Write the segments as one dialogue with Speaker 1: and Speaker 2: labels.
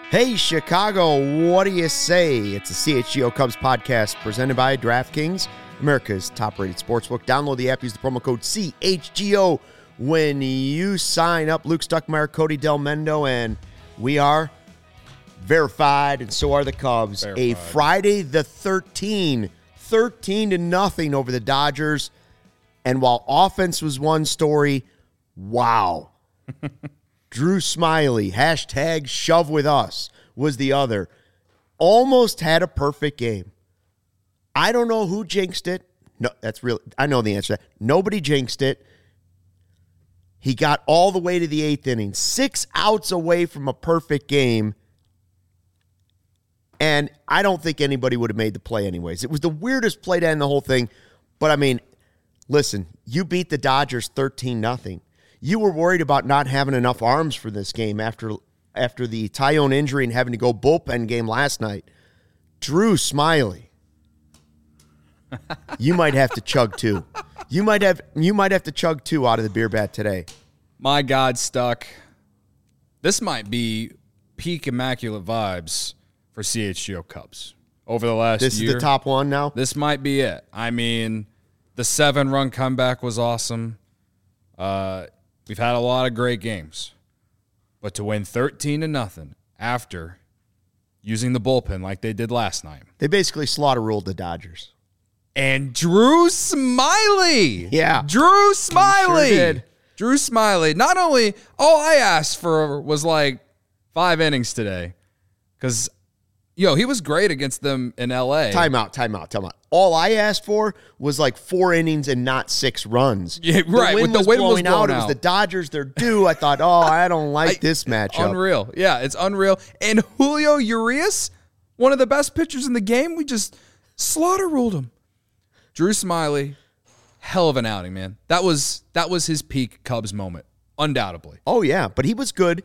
Speaker 1: Hey, Chicago, what do you say? It's a CHGO Cubs podcast presented by DraftKings, America's top-rated sportsbook. Download the app, use the promo code CHGO when you sign up. Luke Stuckmeyer, Cody Del Mendo, and we are verified, and so are the Cubs. Verified. A Friday the 13th, 13-0 over the Dodgers. And while offense was one story, wow. Drew Smyly, hashtag shove with us, was the other. Almost had a perfect game. I don't know who jinxed it. No, that's real. I know the answer to that. Nobody jinxed it. He got all the way to the 8th inning, 6 outs away from a perfect game. And I don't think anybody would have made the play anyways. It was the weirdest play to end the whole thing. But, I mean, listen, you beat the Dodgers 13-0. You were worried about not having enough arms for this game after the Tyone injury and having to go bullpen game last night. Drew Smyly, you might have to chug two. You might have to chug two out of the beer bat today.
Speaker 2: My God, Stuck. This might be peak immaculate vibes for CHGO Cubs over the last year.
Speaker 1: This is the top one now?
Speaker 2: This might be it. I mean, the 7-run comeback was awesome. We've had a lot of great games. But to win 13-0 after using the bullpen like they did last night.
Speaker 1: They basically slaughter-ruled the Dodgers.
Speaker 2: And Drew Smyly.
Speaker 1: Yeah.
Speaker 2: Drew Smyly.
Speaker 1: Sure did.
Speaker 2: Drew Smyly. Not only, all I asked for was like 5 innings today. Because, he was great against them in L.A.
Speaker 1: Time out. All I asked for was like 4 innings and not 6 runs.
Speaker 2: Yeah, right.
Speaker 1: The wind was blowing out. It was the Dodgers. They're due. I thought, I don't like this matchup.
Speaker 2: Unreal. Yeah, it's unreal. And Julio Urias, one of the best pitchers in the game, we just slaughter-ruled him. Drew Smyly, hell of an outing, man. That was his peak Cubs moment, undoubtedly.
Speaker 1: Oh, yeah, but he was good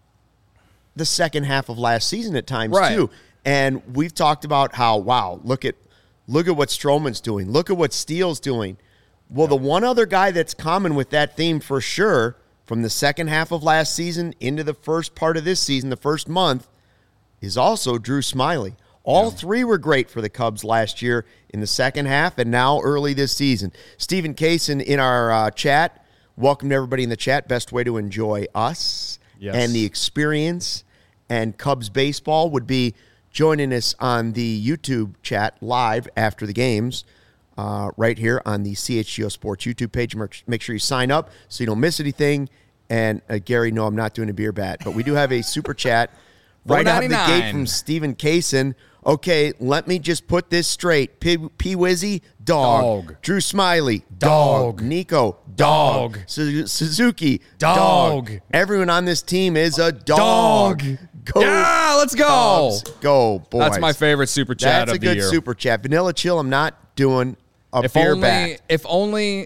Speaker 1: the second half of last season at times, too. And we've talked about how, look at what Stroman's doing. Look at what Steele's doing. Well, the one other guy that's common with that theme for sure, from the second half of last season into the first part of this season, the first month, is also Drew Smyly. All 3 were great for the Cubs last year in the second half and now early this season. Stephen Kaysen in our chat. Welcome to everybody in the chat. Best way to enjoy us and the experience and Cubs baseball would be joining us on the YouTube chat live after the games right here on the CHGO Sports YouTube page. Make sure you sign up so you don't miss anything. And Gary, no, I'm not doing a beer bat, but we do have a super chat right out of the gate from Stephen Kaysen. Okay, let me just put this straight. P-Wizzy, dog. Drew Smyly, dog. Nico, dog. Suzuki, dog. Everyone on this team is a dog. Go.
Speaker 2: Yeah, let's go.
Speaker 1: Cubs. Go, boys.
Speaker 2: That's my favorite super chat of the year.
Speaker 1: That's a good super chat. Vanilla Chill, I'm not doing a beer bat.
Speaker 2: If only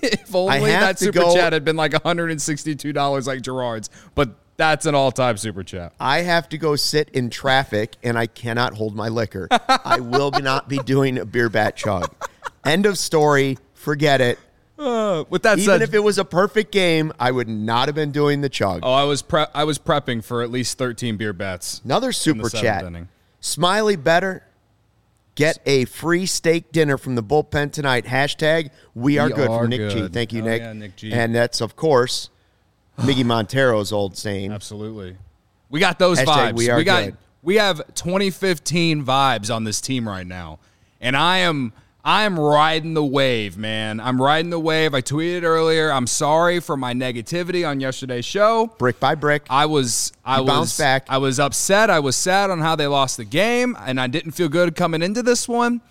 Speaker 2: that super chat had been like $162 like Gerard's, but that's an all-time super chat.
Speaker 1: I have to go sit in traffic, and I cannot hold my liquor. I will not be doing a beer bat chug. End of story. Forget it.
Speaker 2: With that said,
Speaker 1: even if it was a perfect game, I would not have been doing the chug.
Speaker 2: Oh, I was prepping for at least 13 beer bats.
Speaker 1: Another super chat. Smyly better get a free steak dinner from the bullpen tonight. Hashtag we are good from Nick G. Thank you, Nick.
Speaker 2: Yeah, Nick G.
Speaker 1: And that's, of course, Miggy Montero's old saying.
Speaker 2: Absolutely. We got those
Speaker 1: Hashtag
Speaker 2: vibes.
Speaker 1: We are good.
Speaker 2: We have 2015 vibes on this team right now. And I am riding the wave, man. I'm riding the wave. I tweeted earlier, I'm sorry for my negativity on yesterday's show.
Speaker 1: Brick by brick.
Speaker 2: I bounced back. I was upset. I was sad on how they lost the game, and I didn't feel good coming into this one.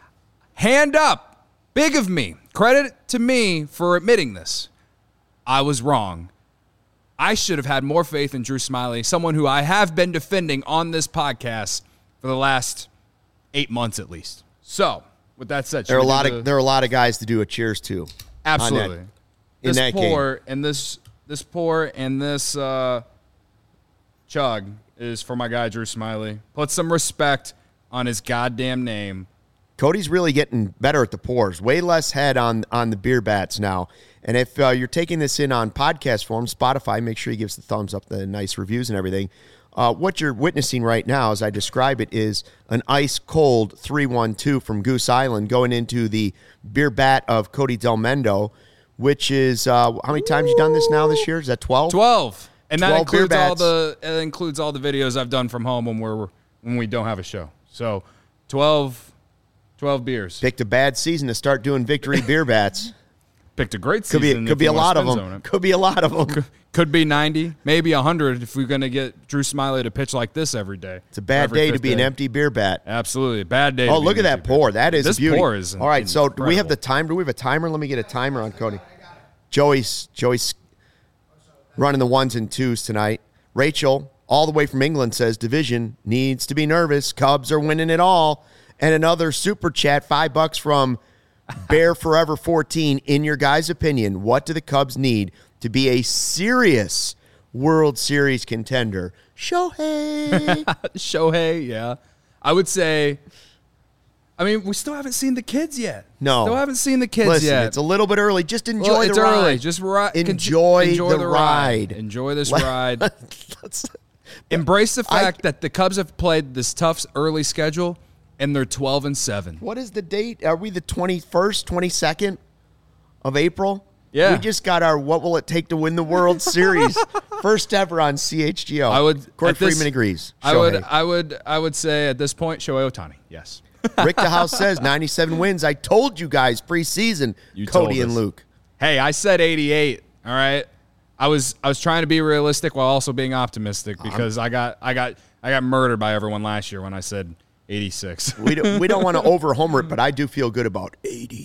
Speaker 2: Hand up. Big of me. Credit to me for admitting this. I was wrong. I should have had more faith in Drew Smyly, someone who I have been defending on this podcast for the last 8 months at least. So, with that said,
Speaker 1: there are a lot of guys to do a cheers to.
Speaker 2: Absolutely.
Speaker 1: In that game.
Speaker 2: This pour and this chug is for my guy Drew Smyly. Put some respect on his goddamn name.
Speaker 1: Cody's really getting better at the pours. Way less head on the beer bats now. And if you're taking this in on podcast form, Spotify, make sure you give us the thumbs up, the nice reviews and everything. What you're witnessing right now, as I describe it, is an ice-cold 3-1-2 from Goose Island going into the beer bat of Cody Delmendo, which is, how many times you done this now this year? Is that 12?
Speaker 2: 12. And that includes all the videos I've done from home when we don't have a show. So 12 beers.
Speaker 1: Picked a bad season to start doing victory beer bats.
Speaker 2: Picked a great season.
Speaker 1: Could be a lot of them. Could be a lot of them.
Speaker 2: Could be 90, maybe 100 if we're going to get Drew Smyly to pitch like this every day.
Speaker 1: It's a bad day to be an empty beer bat.
Speaker 2: Absolutely. A bad day.
Speaker 1: Oh, look at that pour. That is beauty.
Speaker 2: This pour is
Speaker 1: all right, so
Speaker 2: incredible.
Speaker 1: do we have the timer? Do we have a timer? Let me get a timer on Cody. Joey's running the ones and twos tonight. Rachel, all the way from England, says division needs to be nervous. Cubs are winning it all. And another super chat, $5 from Bear Forever 14. In your guys' opinion, what do the Cubs need to be a serious World Series contender? Shohei.
Speaker 2: Shohei, yeah. I would say, I mean, we still haven't seen the kids yet.
Speaker 1: No.
Speaker 2: Still haven't seen the kids
Speaker 1: Listen,
Speaker 2: yet.
Speaker 1: It's a little bit early. Just enjoy the ride.
Speaker 2: It's early. Just
Speaker 1: enjoy the ride.
Speaker 2: Enjoy this ride. Embrace the fact that the Cubs have played this tough early schedule, and they're 12-7.
Speaker 1: What is the date? Are we the 21st, 22nd of April?
Speaker 2: Yeah.
Speaker 1: We just got our What Will It Take to Win the World Series. First ever on CHGO. Corey Freeman agrees.
Speaker 2: I would say at this point, Shohei Ohtani. Yes.
Speaker 1: Rick DeHouse says 97 wins. I told you guys preseason, Cody and Luke.
Speaker 2: Hey, I said 88. All right. I was trying to be realistic while also being optimistic because I got murdered by everyone last year when I said 86.
Speaker 1: We don't want to over-homer it, but I do feel good about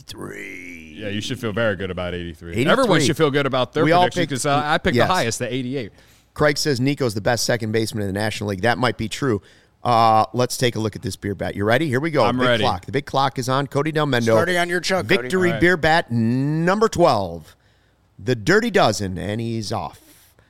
Speaker 1: 83.
Speaker 2: Yeah, you should feel very good about 83.
Speaker 1: 83.
Speaker 2: Everyone should feel good about their prediction because I picked the highest, the 88.
Speaker 1: Craig says Nico's the best second baseman in the National League. That might be true. Let's take a look at this beer bat. You ready? Here we go.
Speaker 2: I'm ready.
Speaker 1: Clock. The big clock is on. Cody Delmendo.
Speaker 3: Starting on your chug,
Speaker 1: Victory
Speaker 3: Cody.
Speaker 1: beer bat number 12. The Dirty Dozen, and he's off.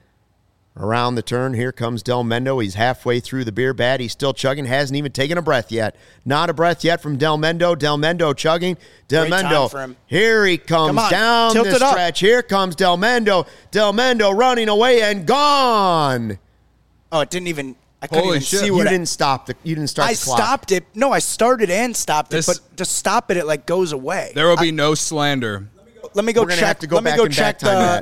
Speaker 1: Around the turn, here comes Delmendo. He's halfway through the beer bat. He's still chugging, hasn't even taken a breath yet. Not a breath yet from Delmendo. Delmendo chugging. Delmendo, here he comes down the stretch. Here comes Delmendo. Delmendo running away and gone.
Speaker 3: Oh, it didn't even... I couldn't even see what
Speaker 1: you didn't start the clock.
Speaker 3: I stopped it. No, I started and stopped it, but to stop it, it like goes away.
Speaker 2: There will be no slander.
Speaker 3: Let me go check. Let me go check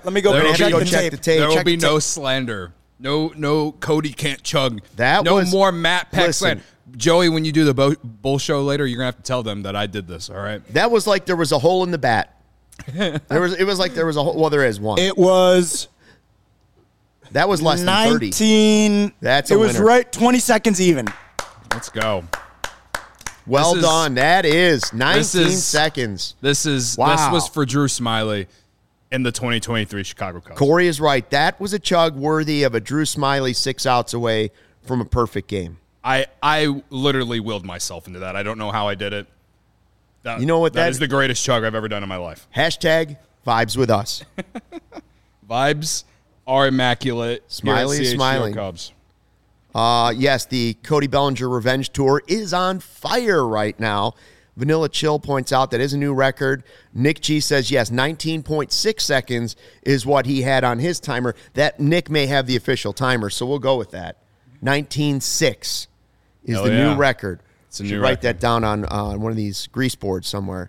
Speaker 3: the tape.
Speaker 2: There will be no slander. No, Cody can't chug. More Matt Peck slander. Joey, when you do the bull show later, you're gonna have to tell them that I did this. All right.
Speaker 1: That was like there was a hole in the bat. It was like there was a hole. Well, there is one.
Speaker 3: It was.
Speaker 1: That was less than 30.
Speaker 3: 19.
Speaker 1: That's a
Speaker 3: It was
Speaker 1: winner.
Speaker 3: right 20 seconds even.
Speaker 2: Let's go.
Speaker 1: Well done. That is 19 seconds.
Speaker 2: This was for Drew Smyly in the 2023 Chicago Cubs.
Speaker 1: Corey is right. That was a chug worthy of a Drew Smyly 6 outs away from a perfect game.
Speaker 2: I literally willed myself into that. I don't know how I did it.
Speaker 1: You know what?
Speaker 2: That is the greatest chug I've ever done in my life.
Speaker 1: Hashtag vibes with us.
Speaker 2: Vibes are immaculate.
Speaker 1: Smiley is smiling.
Speaker 2: Cubs.
Speaker 1: Yes, the Cody Bellinger Revenge Tour is on fire right now. Vanilla Chill points out that is a new record. Nick G says, yes, 19.6 seconds is what he had on his timer. That Nick may have the official timer, so we'll go with that. 19.6 is the new record.
Speaker 2: It's a new
Speaker 1: write that down on one of these grease boards somewhere.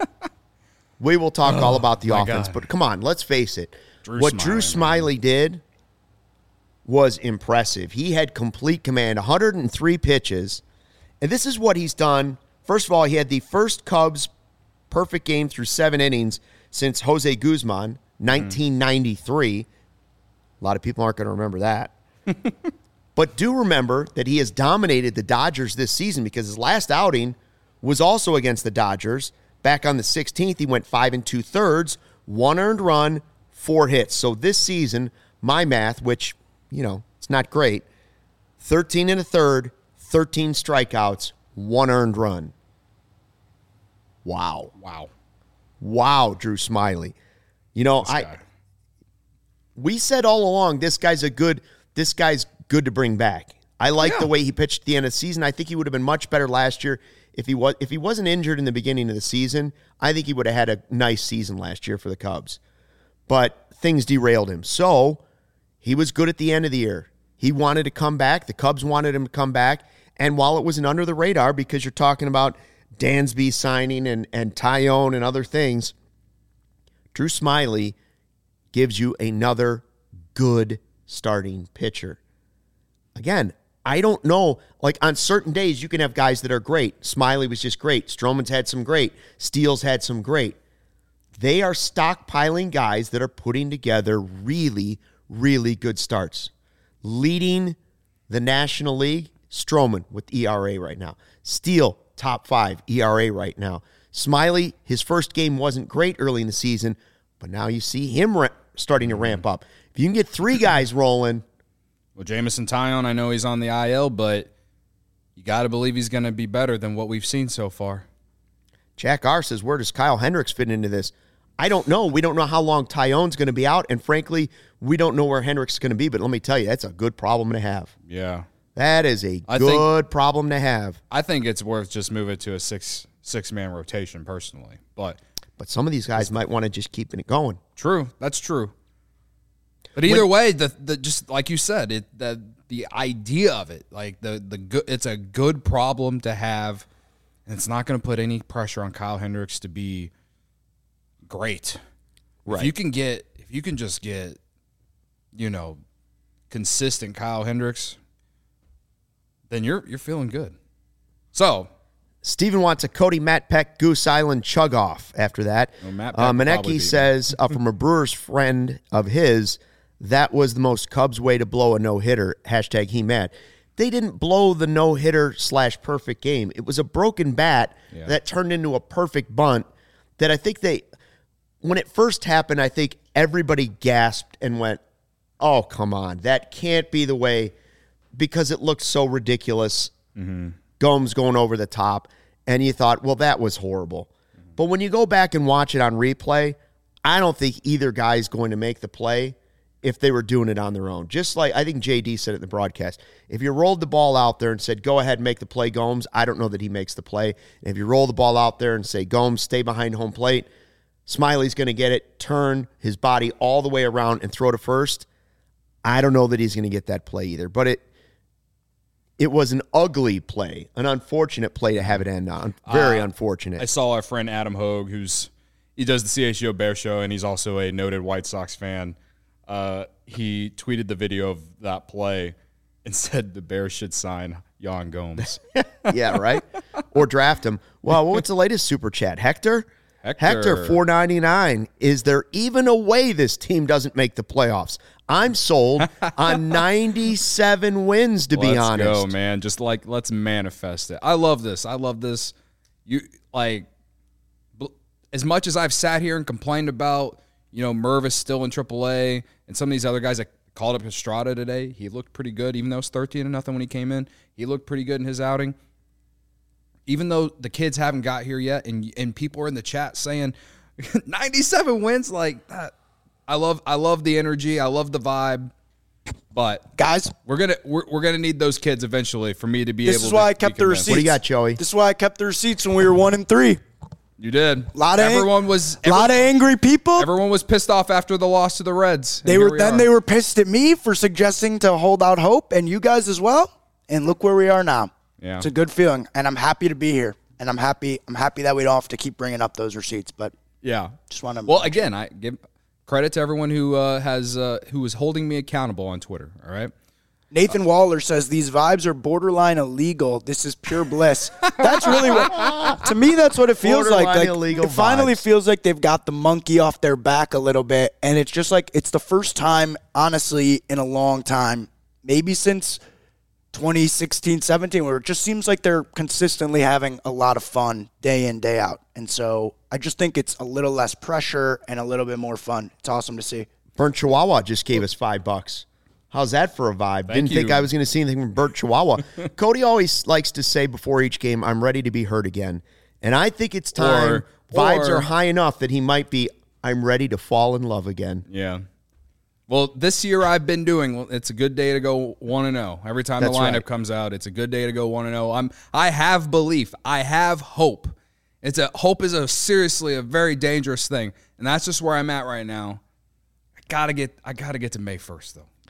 Speaker 1: We will talk all about the offense, but come on, let's face it. Drew Smyly did was impressive. He had complete command, 103 pitches, and this is what he's done. First of all, he had the first Cubs perfect game through 7 innings since Jose Guzman, 1993. A lot of people aren't going to remember that. But do remember that he has dominated the Dodgers this season because his last outing was also against the Dodgers. Back on the 16th, he went 5 2/3, 1 earned run, 4 hits. So this season, my math, which, it's not great, 13 1/3, 13 strikeouts, 1 earned run. Wow. Wow, Drew Smyly. We said all along this guy's good to bring back. I like the way he pitched at the end of the season. I think he would have been much better last year if he wasn't injured in the beginning of the season. I think he would have had a nice season last year for the Cubs. But things derailed him. So he was good at the end of the year. He wanted to come back. The Cubs wanted him to come back. And while it was an under the radar, because you're talking about Dansby signing and Taillon and other things, Drew Smyly gives you another good starting pitcher. Again, I don't know. Like, on certain days, you can have guys that are great. Smyly was just great. Stroman's had some great. Steele's had some great. They are stockpiling guys that are putting together really, really good starts. Leading the National League, Stroman with ERA right now. Steele, top 5 ERA right now. Smyly, his first game wasn't great early in the season, but now you see him starting to ramp up. If you can get 3 guys rolling.
Speaker 2: Well, Jameson Taillon, I know he's on the IL, but you got to believe he's going to be better than what we've seen so far.
Speaker 1: Jack R. says, where does Kyle Hendricks fit into this? I don't know. We don't know how long Taillon's going to be out, and frankly, we don't know where Hendricks is going to be, but let me tell you, that's a good problem to have.
Speaker 2: Yeah.
Speaker 1: That is a good problem to have.
Speaker 2: I think it's worth just moving to a six-man rotation personally. But
Speaker 1: some of these guys might want to just keep it going.
Speaker 2: True. That's true. But either way, the just like you said, the idea of it, like it's a good problem to have, and it's not going to put any pressure on Kyle Hendricks to be great.
Speaker 1: Right.
Speaker 2: If you can just get, consistent Kyle Hendricks, then you're feeling good. So
Speaker 1: Steven wants a Cody Matt Peck Goose Island chug off after that.
Speaker 2: Well,
Speaker 1: Maneki says from a Brewers friend of his, that was the most Cubs way to blow a no-hitter. # he mad. They didn't blow the no-hitter / perfect game. It was a broken bat that turned into a perfect bunt that I think when it first happened, I think everybody gasped and went, oh, come on. That can't be the way, because it looked so ridiculous.
Speaker 2: Mm-hmm.
Speaker 1: Gomes going over the top, and you thought, well, that was horrible. Mm-hmm. But when you go back and watch it on replay, I don't think either guy is going to make the play if they were doing it on their own. Just like I think JD said it in the broadcast. If you rolled the ball out there and said, go ahead and make the play, Gomes, I don't know that he makes the play. And if you roll the ball out there and say, Gomes, stay behind home plate, Smiley's going to get it, turn his body all the way around and throw to first, I don't know that he's going to get that play either. But it was an ugly play, an unfortunate play to have it end on. Very unfortunate.
Speaker 2: I saw our friend Adam Hogue, he does the CHGO Bear Show, and he's also a noted White Sox fan. He tweeted the video of that play and said the Bears should sign Yan Gomes.
Speaker 1: Yeah, right? Or draft him. Well, what's the latest super chat? Hector, $4.99. Is there even a way this team doesn't make the playoffs? I'm sold on 97 wins, to be honest.
Speaker 2: Let's go, man. Just let's manifest it. I love this. As much as I've sat here and complained about, Mervis still in AAA and some of these other guys, I called up Estrada today. He looked pretty good, even though it's 13-0 when he came in. He looked pretty good in his outing. Even though the kids haven't got here yet, and people are in the chat saying 97 wins, like that. I love the energy. I love the vibe. But
Speaker 3: guys,
Speaker 2: we're gonna need those kids eventually for me to be able to.
Speaker 3: This is why I kept the receipts.
Speaker 1: What do you got, Joey?
Speaker 3: This is why I kept the receipts when we were 1-3.
Speaker 2: You did.
Speaker 3: A lot of angry people.
Speaker 2: Everyone was pissed off after the loss to the Reds.
Speaker 3: They were pissed at me for suggesting to hold out hope, and you guys as well. And look where we are now.
Speaker 2: Yeah.
Speaker 3: It's a good feeling, and I'm happy to be here. And I'm happy that we don't have to keep bringing up those receipts. But
Speaker 2: yeah,
Speaker 3: just want to.
Speaker 2: Well, again, I give credit to everyone who is holding me accountable on Twitter. All right.
Speaker 3: Nathan Waller says these vibes are borderline illegal. This is pure bliss. That's really what, to me, that's what it feels like.
Speaker 1: Illegal
Speaker 3: it finally feels like they've got the monkey off their back a little bit, and it's just like it's the first time, honestly, in a long time, maybe since 2016-17, where it just seems like they're consistently having a lot of fun day in, day out. And so I just think it's a little less pressure and a little bit more fun. It's awesome to see.
Speaker 1: Burnt Chihuahua just gave us $5. How's that for a vibe? Didn't think I was going to see anything from Burnt Chihuahua. Cody always likes to say before each game, I'm ready to be hurt again. And I think it's time. Vibes are high enough that he might be, I'm ready to fall in love again.
Speaker 2: Yeah. Well, this year I've been doing, it's a good day to go 1-0. Every time the lineup comes out, it's a good day to go 1-0. I have belief. I have hope. Hope is seriously a very dangerous thing. And that's just where I'm at right now. I gotta get to May 1st, though.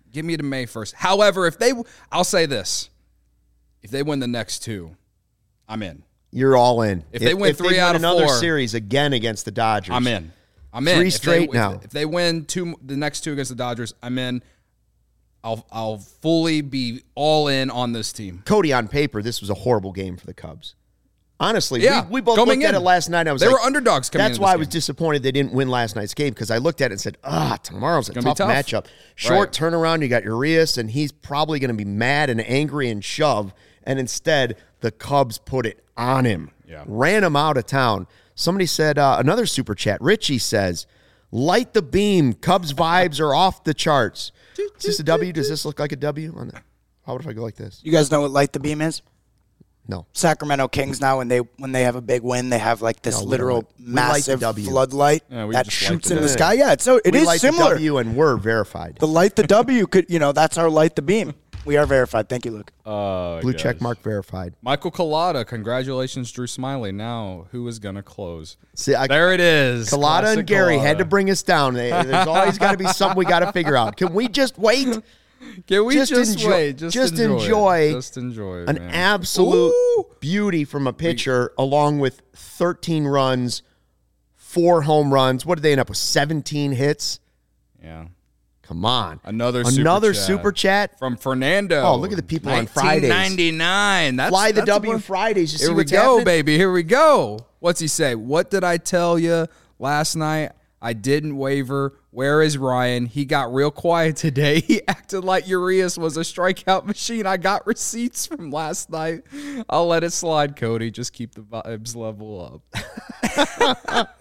Speaker 2: Give me to May 1st. However, I'll say this. If they win the next 2, I'm in.
Speaker 1: You're all in.
Speaker 2: If they win 3 out of 4.
Speaker 1: Another series again against the Dodgers.
Speaker 2: I'm in.
Speaker 1: 3 straight now.
Speaker 2: If they win the next 2 against the Dodgers, I'm in. I'll fully be all in on this team.
Speaker 1: Cody, on paper, this was a horrible game for the Cubs. Honestly,
Speaker 2: yeah,
Speaker 1: we both looked at it last night.
Speaker 2: They were underdogs coming in.
Speaker 1: That's why I was disappointed they didn't win last night's game, because I looked at it and said, tomorrow's a tough matchup. Short turnaround, you got Urias, and he's probably going to be mad and angry and shove. And instead, the Cubs put it on him.
Speaker 2: Yeah.
Speaker 1: Ran him out of town. Somebody said, another super chat, Richie says, light the beam. Cubs vibes are off the charts. Is this a W? Does this look like a W? How would if I go like this?
Speaker 3: You guys know what light the beam is?
Speaker 1: No.
Speaker 3: Sacramento Kings now, when they have a big win, they have like this literal massive floodlight that shoots in the sky. Yeah, so it is
Speaker 1: light
Speaker 3: similar.
Speaker 1: The W, and we're verified.
Speaker 3: The light the W could, that's our light the beam. We are verified. Thank you, Luke.
Speaker 1: Blue check mark verified.
Speaker 2: Michael Collada, congratulations, Drew Smiley. Now, who is going to close?
Speaker 1: See,
Speaker 2: there it is.
Speaker 1: Collada and Gary had to bring us down. There's always got to be something we got to figure out. Can we just wait?
Speaker 2: Can we just wait?
Speaker 1: Just enjoy
Speaker 2: it,
Speaker 1: an absolute beauty from a pitcher, along with 13 runs, 4 home runs. What did they end up with? 17 hits?
Speaker 2: Yeah.
Speaker 1: Come on.
Speaker 2: Another
Speaker 1: super chat
Speaker 2: from Fernando.
Speaker 1: Oh, look at the people on Fridays.
Speaker 2: 1999.
Speaker 1: Fly the W Fridays. You see what's
Speaker 2: happening? Here we go,
Speaker 1: happening?
Speaker 2: baby. Here we go. What's he say? What did I tell you last night? I didn't waver. Where is Ryan? He got real quiet today. He acted like Urias was a strikeout machine. I got receipts from last night. I'll let it slide, Cody. Just keep the vibes level up.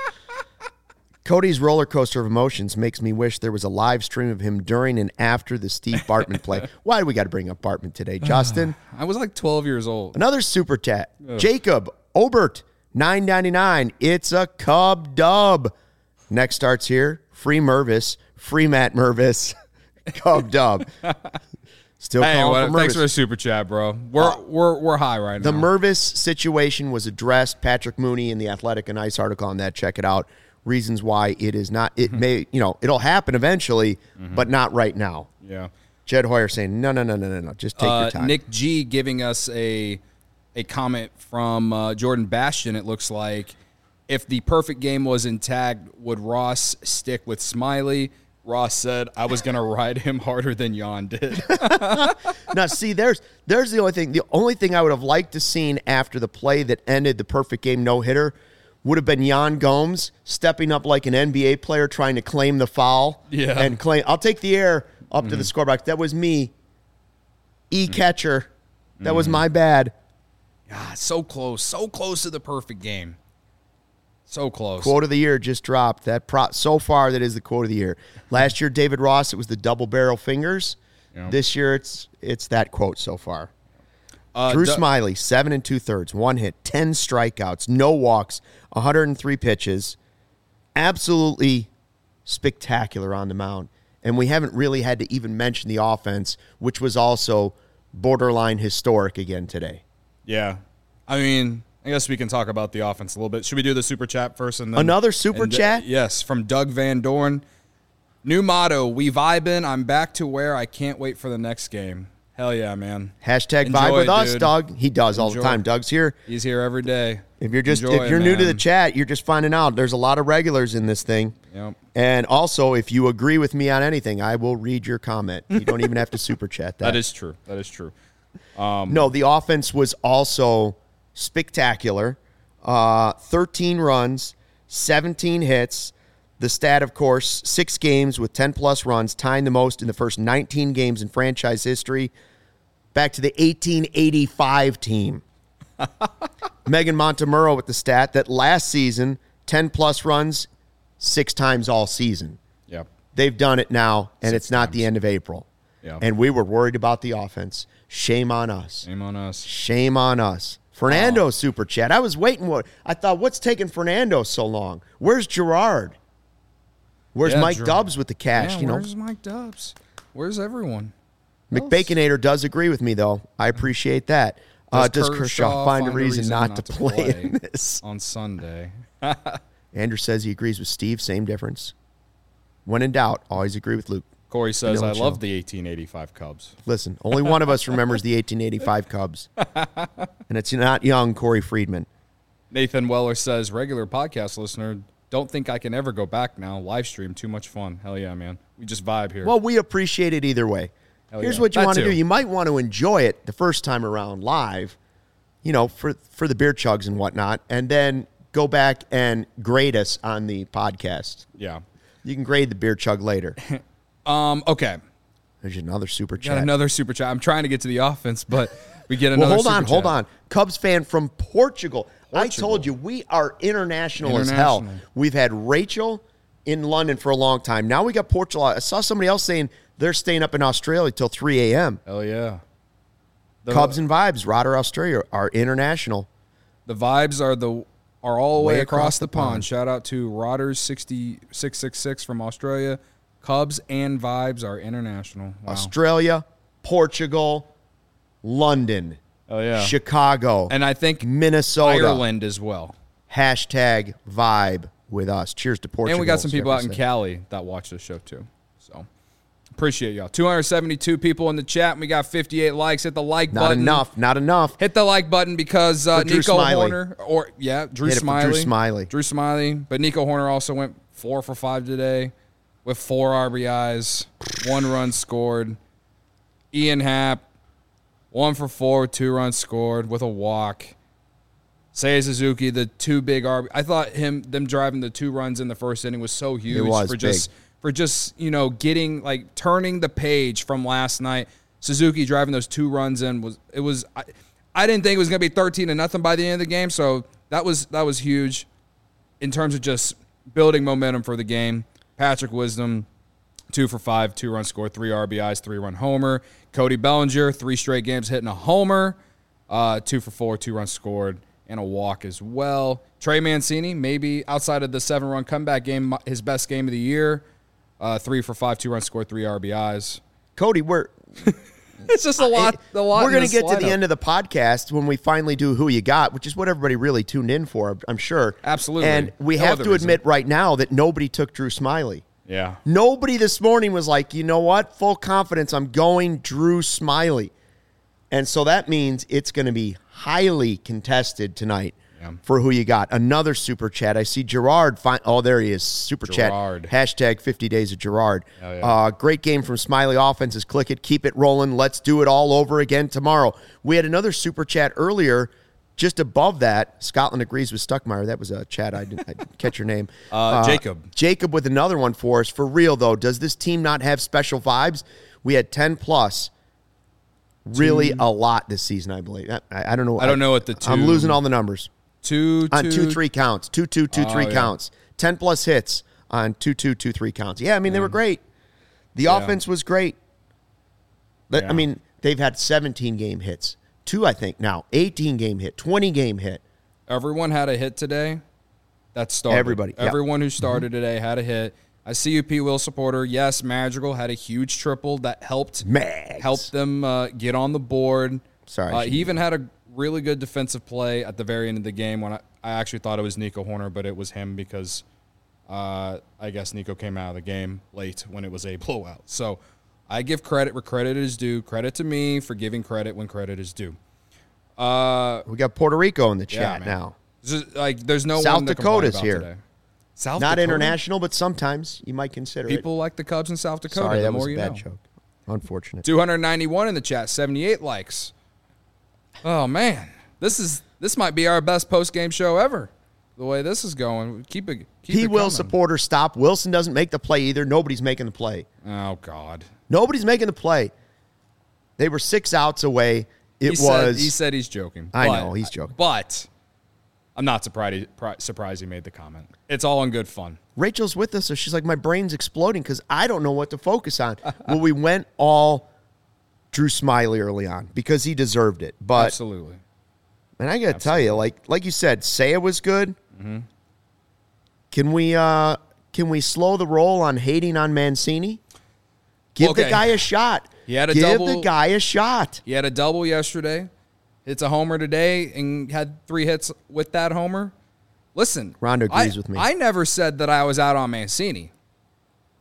Speaker 1: Cody's roller coaster of emotions makes me wish there was a live stream of him during and after the Steve Bartman play. Why do we got to bring up Bartman today, Justin?
Speaker 2: I was like 12 years old.
Speaker 1: Another super chat. Jacob Obert, $9.99. It's a Cub dub. Next starts here. Free Mervis. Free Matt Mervis. Cub dub. Still calling for Mervis.
Speaker 2: Thanks for the super chat, bro. We're high right now.
Speaker 1: The Mervis situation was addressed. Patrick Mooney in the Athletic, a nice article on that. Check it out. Reasons why it is not. It may, it'll happen eventually, but not right now.
Speaker 2: Yeah.
Speaker 1: Jed Hoyer saying, no. Just take your time.
Speaker 2: Nick G giving us a comment from Jordan Bastion. It looks like, if the perfect game was intact, would Ross stick with Smiley? Ross said, I was going to ride him harder than Jan did.
Speaker 1: Now, see, there's the only thing. The only thing I would have liked to seen after the play that ended the perfect game no-hitter would have been Yan Gomes stepping up like an NBA player trying to claim the foul.
Speaker 2: Yeah.
Speaker 1: And claim, I'll take the air up to the scorebox. That was me. Catcher. That was my bad.
Speaker 2: God, so close to the perfect game. So close.
Speaker 1: Quote of the year just dropped. So far, that is the quote of the year. Last year, David Ross, it was the double barrel fingers. Yep. This year, it's that quote so far. Drew Smiley, 7 2/3, 1 hit, 10 strikeouts, no walks, 103 pitches. Absolutely spectacular on the mound. And we haven't really had to even mention the offense, which was also borderline historic again today.
Speaker 2: Yeah. I mean, I guess we can talk about the offense a little bit. Should we do the super chat first? And then
Speaker 1: another super chat?
Speaker 2: Yes, from Doug Van Dorn. New motto, we vibin'. I'm back to where I can't wait for the next game. Hell yeah, man.
Speaker 1: Hashtag vibe with us, Doug. He does all the time. Doug's here.
Speaker 2: He's here every day.
Speaker 1: If you're new to the chat, you're just finding out there's a lot of regulars in this thing.
Speaker 2: Yep.
Speaker 1: And also, if you agree with me on anything, I will read your comment. You don't even have to super chat that.
Speaker 2: That is true.
Speaker 1: No, the offense was also spectacular. 13 runs, 17 hits. The stat, of course, 6 games with 10-plus runs, tying the most in the first 19 games in franchise history. Back to the 1885 team. Megan Montemurro with the stat that last season, 10-plus runs, 6 times all season.
Speaker 2: Yep.
Speaker 1: They've done it now, and it's not the end of April.
Speaker 2: Yep.
Speaker 1: And we were worried about the offense. Shame on us. Shame on us. Fernando super chat. I was waiting. I thought, what's taking Fernando so long? Where's Gerard? Where's Mike Dubs with the cash?
Speaker 2: Yeah, where's Mike Dubs? Where's everyone?
Speaker 1: McBaconator does agree with me, though. I appreciate that. Does Kershaw find a reason not to play in this
Speaker 2: on Sunday?
Speaker 1: Andrew says he agrees with Steve. Same difference. When in doubt, always agree with Luke.
Speaker 2: Corey says, I love the 1885 Cubs.
Speaker 1: Listen, only one of us remembers the 1885 Cubs. And it's not young Corey Friedman.
Speaker 2: Nathan Weller says, regular podcast listener, don't think I can ever go back now. Live stream, too much fun. Hell yeah, man. We just vibe here.
Speaker 1: Well, we appreciate it either way. Here's what you want to do. You might want to enjoy it the first time around live, for the beer chugs and whatnot, and then go back and grade us on the podcast.
Speaker 2: Yeah.
Speaker 1: You can grade the beer chug later.
Speaker 2: Okay.
Speaker 1: There's another super chat.
Speaker 2: Got another super chat. I'm trying to get to the offense, but we get another
Speaker 1: well,
Speaker 2: super chat.
Speaker 1: Hold on. Cubs fan from Portugal. I told you, we are international as hell. We've had Rachel in London for a long time. Now we got Portugal. I saw somebody else saying they're staying up in Australia till 3 a.m.
Speaker 2: Hell yeah.
Speaker 1: Cubs and Vibes, Rotter, Australia, are international.
Speaker 2: The Vibes are all the way across the pond. Shout out to Rotters 6666 from Australia. Cubs and Vibes are international. Wow.
Speaker 1: Australia, Portugal, London, Chicago,
Speaker 2: and I think
Speaker 1: Minnesota,
Speaker 2: Ireland as well.
Speaker 1: Hashtag vibe with us. Cheers to Portugal.
Speaker 2: And we got some people out in Cali that watch the show too. So appreciate y'all. 272 people in the chat. And we got 58 likes. Hit the like button.
Speaker 1: Not enough.
Speaker 2: Hit the like button because Nico Horner Drew Smiley. But Nico Horner also went 4 for 5 today with 4 RBIs, 1 run scored. Ian Happ, 1 for 4, 2 runs scored with a walk. Seiya Suzuki, the 2 big RBIs. I thought them driving the 2 runs in the first inning was so huge.
Speaker 1: It was
Speaker 2: for just getting turning the page from last night. Suzuki driving those 2 runs in I didn't think it was going to be 13-0 by the end of the game, so that was huge in terms of just building momentum for the game. Patrick Wisdom, 2 for 5, 2 runs scored, 3 RBIs, 3-run homer. Cody Bellinger, 3 straight games hitting a homer, 2 for 4, 2 runs scored, and a walk as well. Trey Mancini, maybe outside of the 7-run comeback game, his best game of the year. 3 for 5, 2 runs scored, 3 RBIs.
Speaker 1: Cody,
Speaker 2: it's just a lot.
Speaker 1: We're going to get to the end of the podcast when we finally do Who You Got, which is what everybody really tuned in for, I'm sure.
Speaker 2: Absolutely.
Speaker 1: And we have to admit right now that nobody took Drew Smiley.
Speaker 2: Yeah.
Speaker 1: Nobody this morning was like, you know what? Full confidence. I'm going Drew Smiley. And so that means it's going to be highly contested tonight for Who You Got. Another super chat. I see Gerard. There he is. Super
Speaker 2: Gerard.
Speaker 1: Chat. Hashtag 50 days of Gerard.
Speaker 2: Oh, yeah.
Speaker 1: Great game from Smiley offenses. Click it. Keep it rolling. Let's do it all over again tomorrow. We had another super chat earlier. Just above that, Scotland agrees with Stuckmeyer. That was a chat. I didn't catch your name.
Speaker 2: Jacob.
Speaker 1: Jacob with another one for us. For real, though, does this team not have special vibes? We had 10+. Really a lot this season, I believe. I don't know.
Speaker 2: I don't know what the 2.
Speaker 1: I'm losing all the numbers.
Speaker 2: 2,
Speaker 1: 2-3 counts. 2-2-2-3 counts. 10+ hits on 2-2-2-3 counts. Yeah, I mean, they were great. The offense was great. I mean, they've had 17-game hits. 2, I think, now. 18-game hit. 20-game hit.
Speaker 2: Everyone had a hit today. That started.
Speaker 1: Everybody.
Speaker 2: Everyone who started today had a hit. A CUP Will supporter, yes, Madrigal had a huge triple that helped them get on the board.
Speaker 1: Sorry.
Speaker 2: He even had a really good defensive play at the very end of the game when I actually thought it was Nico Horner, but it was him because I guess Nico came out of the game late when it was a blowout. So I give credit where credit is due. Credit to me for giving credit when credit is due.
Speaker 1: We got Puerto Rico in the chat now.
Speaker 2: There's no
Speaker 1: South
Speaker 2: one to
Speaker 1: Dakota's
Speaker 2: complain about
Speaker 1: here.
Speaker 2: Today. South
Speaker 1: Not
Speaker 2: Dakota?
Speaker 1: international, but sometimes you might consider
Speaker 2: People like the Cubs in South Dakota.
Speaker 1: Sorry, that was
Speaker 2: more
Speaker 1: a
Speaker 2: you
Speaker 1: bad
Speaker 2: know.
Speaker 1: joke. Unfortunate.
Speaker 2: 291 in the chat, 78 likes. Oh man, this might be our best post game show ever. The way this is going, keep it.
Speaker 1: P. Will supporter, stop. Wilson doesn't make the play either. Nobody's making the play.
Speaker 2: Oh God,
Speaker 1: nobody's making the play. They were 6 outs away. He
Speaker 2: said he's joking.
Speaker 1: I know he's joking,
Speaker 2: but I'm not surprised he made the comment. It's all in good fun.
Speaker 1: Rachel's with us, so she's like, my brain's exploding because I don't know what to focus on. Well, we went all Drew Smiley early on because he deserved it. But
Speaker 2: absolutely.
Speaker 1: And I got to tell you, like you said, Seiya was good.
Speaker 2: Mm-hmm.
Speaker 1: Can we slow the roll on hating on Mancini? Give the guy a shot.
Speaker 2: Give
Speaker 1: the guy a shot.
Speaker 2: He had a double yesterday. It's a homer today and had 3 hits with that homer. Listen,
Speaker 1: Rondo agrees with me.
Speaker 2: I never said that I was out on Mancini.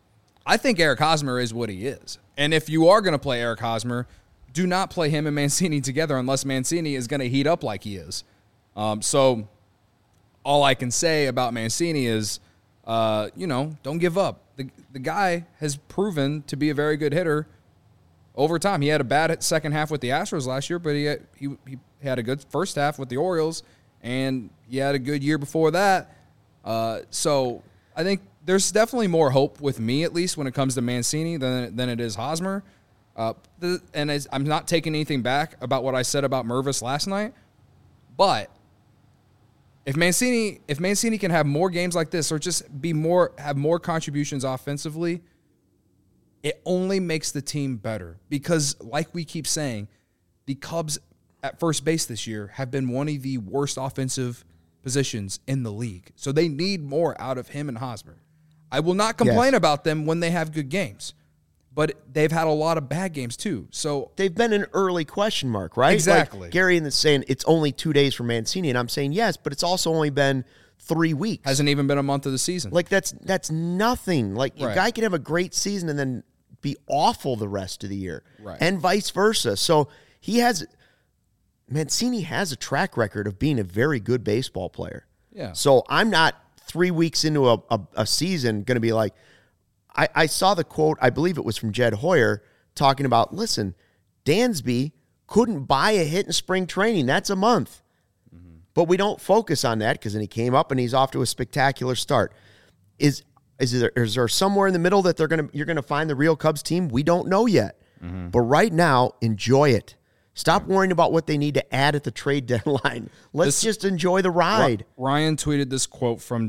Speaker 2: I think Eric Hosmer is what he is. And if you are going to play Eric Hosmer, do not play him and Mancini together unless Mancini is going to heat up like he is. So all I can say about Mancini is, don't give up. The guy has proven to be a very good hitter over time. He had a bad second half with the Astros last year, but he had a good first half with the Orioles, and he had a good year before that. So I think there's definitely more hope with me, at least, when it comes to Mancini than it is Hosmer. And I'm not taking anything back about what I said about Mervis last night, but if Mancini can have more games like this or just have more contributions offensively, it only makes the team better. Because, like we keep saying, the Cubs at first base this year have been one of the worst offensive positions in the league. So they need more out of him and Hosmer. I will not complain about them when they have good games, but they've had a lot of bad games too. So
Speaker 1: they've been an early question mark, right?
Speaker 2: Exactly.
Speaker 1: Like Gary is saying it's only 2 days for Mancini, and I'm saying yes, but it's also only been 3 weeks.
Speaker 2: Hasn't even been a month of the season.
Speaker 1: Like that's nothing. Like a guy can have a great season and then be awful the rest of the year,
Speaker 2: right?
Speaker 1: And vice versa. So Mancini has a track record of being a very good baseball player.
Speaker 2: Yeah.
Speaker 1: So I'm not 3 weeks into a season going to be like, I saw the quote, I believe it was from Jed Hoyer, talking about, listen, Dansby couldn't buy a hit in spring training. That's a month. Mm-hmm. But we don't focus on that because then he came up and he's off to a spectacular start. Is there somewhere in the middle that you're gonna find the real Cubs team? We don't know yet. Mm-hmm. But right now, enjoy it. Stop worrying about what they need to add at the trade deadline. Let's just enjoy the ride.
Speaker 2: Ryan tweeted this quote from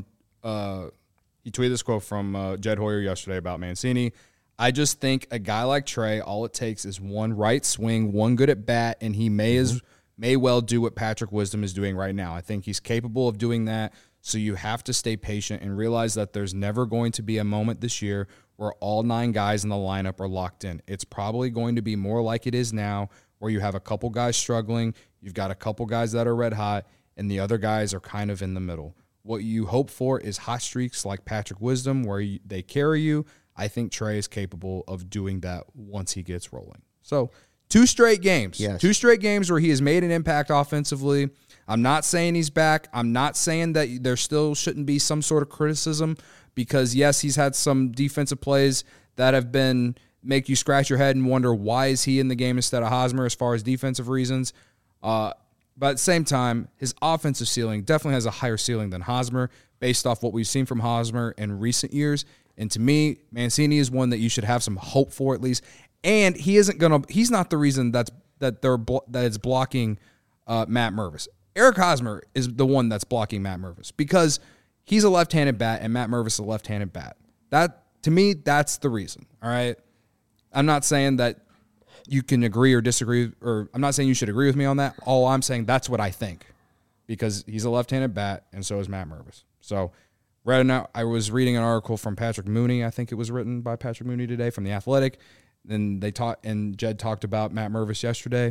Speaker 2: Jed Hoyer yesterday about Mancini. I just think a guy like Trey, all it takes is one right swing, one good at bat, and he may well do what Patrick Wisdom is doing right now. I think he's capable of doing that. So you have to stay patient and realize that there's never going to be a moment this year where all 9 guys in the lineup are locked in. It's probably going to be more like it is now, where you have a couple guys struggling, you've got a couple guys that are red hot, and the other guys are kind of in the middle. What you hope for is hot streaks like Patrick Wisdom where they carry you. I think Trey is capable of doing that once he gets rolling. So 2 straight games.
Speaker 1: Yes.
Speaker 2: 2 straight games where he has made an impact offensively. I'm not saying he's back. I'm not saying that there still shouldn't be some sort of criticism because, yes, he's had some defensive plays that have been make you scratch your head and wonder why is he in the game instead of Hosmer as far as defensive reasons. But at the same time, his offensive ceiling definitely has a higher ceiling than Hosmer based off what we've seen from Hosmer in recent years. And to me, Mancini is one that you should have some hope for at least. And he's not the reason that it's blocking Matt Mervis. Eric Hosmer is the one that's blocking Matt Mervis because he's a left-handed bat and Matt Mervis is a left-handed bat. That, to me, that's the reason. All right. I'm not saying that you can agree or disagree, or I'm not saying you should agree with me on that. All I'm saying, that's what I think because he's a left-handed bat and so is Matt Mervis. So right now, I was reading an article from Patrick Mooney. I think it was written by Patrick Mooney today from The Athletic. Then Jed talked about Matt Mervis yesterday.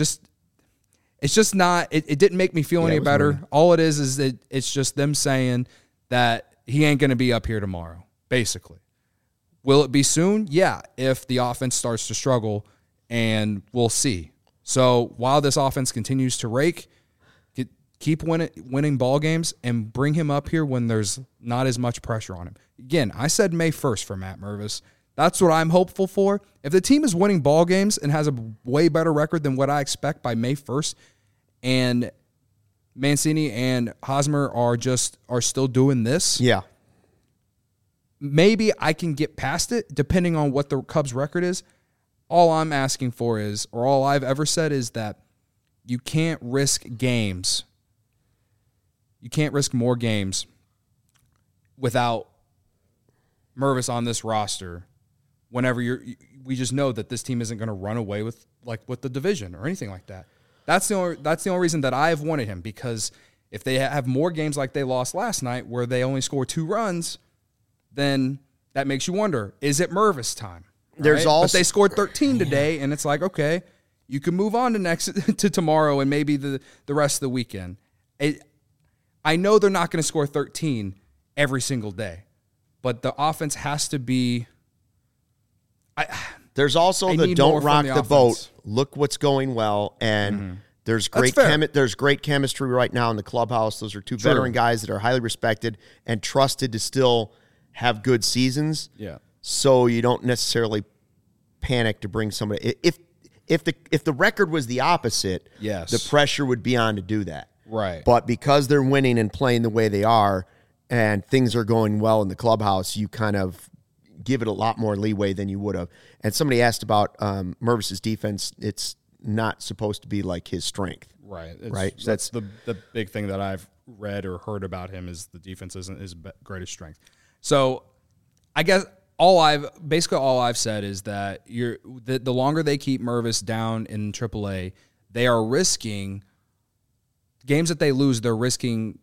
Speaker 2: It's just not. It didn't make me feel any better. Mooney. All it is that it's just them saying that he ain't going to be up here tomorrow. Basically, will it be soon? Yeah, if the offense starts to struggle, and we'll see. So while this offense continues to rake, keep winning ball games and bring him up here when there's not as much pressure on him. Again, I said May 1st for Matt Mervis. That's what I'm hopeful for. If the team is winning ball games and has a way better record than what I expect by May 1st, and Mancini and Hosmer are still doing this,
Speaker 1: yeah,
Speaker 2: maybe I can get past it depending on what the Cubs' record is. All I'm asking for is, or all I've ever said is that you can't risk games. You can't risk more games without Mervis on this roster. Whenever we just know that this team isn't going to run away with the division or anything like that. That's the only reason that I've wanted him, because if they have more games like they lost last night where they only score 2 runs, then that makes you wonder, is it Mervis time?
Speaker 1: There's also,
Speaker 2: but they scored 13 today, and it's like, okay, you can move on to tomorrow and maybe the rest of the weekend. I know they're not going to score 13 every single day, but the offense has to be
Speaker 1: There's also the don't rock the boat. Look what's going well, and there's great chemistry right now in the clubhouse. Those are two veteran guys that are highly respected and trusted to still have good seasons.
Speaker 2: Yeah.
Speaker 1: So you don't necessarily panic to bring somebody. If the record was the opposite, the pressure would be on to do that.
Speaker 2: Right.
Speaker 1: But because they're winning and playing the way they are, and things are going well in the clubhouse, you kind of give it a lot more leeway than you would have. And somebody asked about Mervis's defense. It's not supposed to be like his strength.
Speaker 2: Right.
Speaker 1: Right.
Speaker 2: So that's the big thing that I've read or heard about him is the defense isn't his greatest strength. So I guess all I've said is that the longer they keep Mervis down in AAA, they are risking games that they lose. They're risking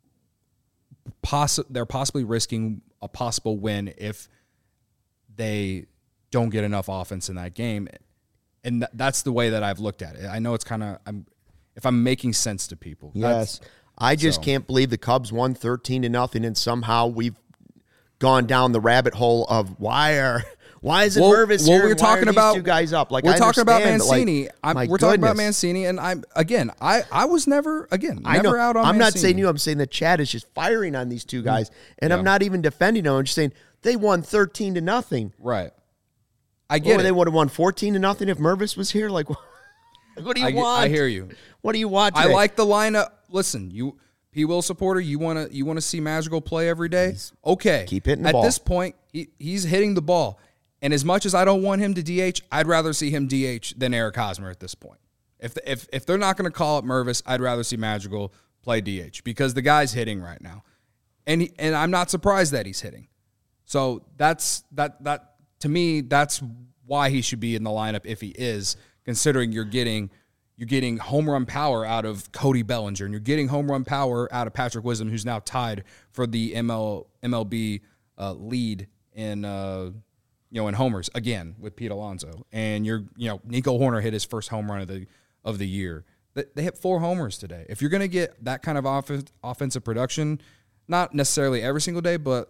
Speaker 2: they're possibly risking a possible win if they don't get enough offense in that game. And that's the way that I've looked at it. I know it's kind of if I'm making sense to people.
Speaker 1: Yes. I just can't believe the Cubs won 13-0, and somehow we've gone down the rabbit hole of why isn't Mervis here?
Speaker 2: We're talking about
Speaker 1: these two guys up. Like
Speaker 2: we're talking about Mancini.
Speaker 1: We're
Speaker 2: talking about Mancini, and I was never out on Mancini.
Speaker 1: I'm not saying you. I'm saying that Chad is just firing on these two guys, and I'm not even defending them. I'm just saying they won 13-0.
Speaker 2: Right. I get it.
Speaker 1: They would have won 14-0 if Mervis was here. Like, what do you want?
Speaker 2: I hear you.
Speaker 1: What do you want today?
Speaker 2: I like the lineup. Listen, you P. Will supporter, you want to see Madrigal play every day? Okay.
Speaker 1: Keep hitting the ball.
Speaker 2: At this point, he's hitting the ball. And as much as I don't want him to DH, I'd rather see him DH than Eric Hosmer at this point. If they're not going to call up Mervis, I'd rather see Madrigal play DH because the guy's hitting right now. And I'm not surprised that he's hitting. So that to me, that's why he should be in the lineup if he is, considering you're getting home run power out of Cody Bellinger, and you're getting home run power out of Patrick Wisdom, who's now tied for the MLB lead in in homers again with Pete Alonso. And Nico Horner hit his first home run of the year. They hit 4 homers today. If you're going to get that kind of offensive production, not necessarily every single day, but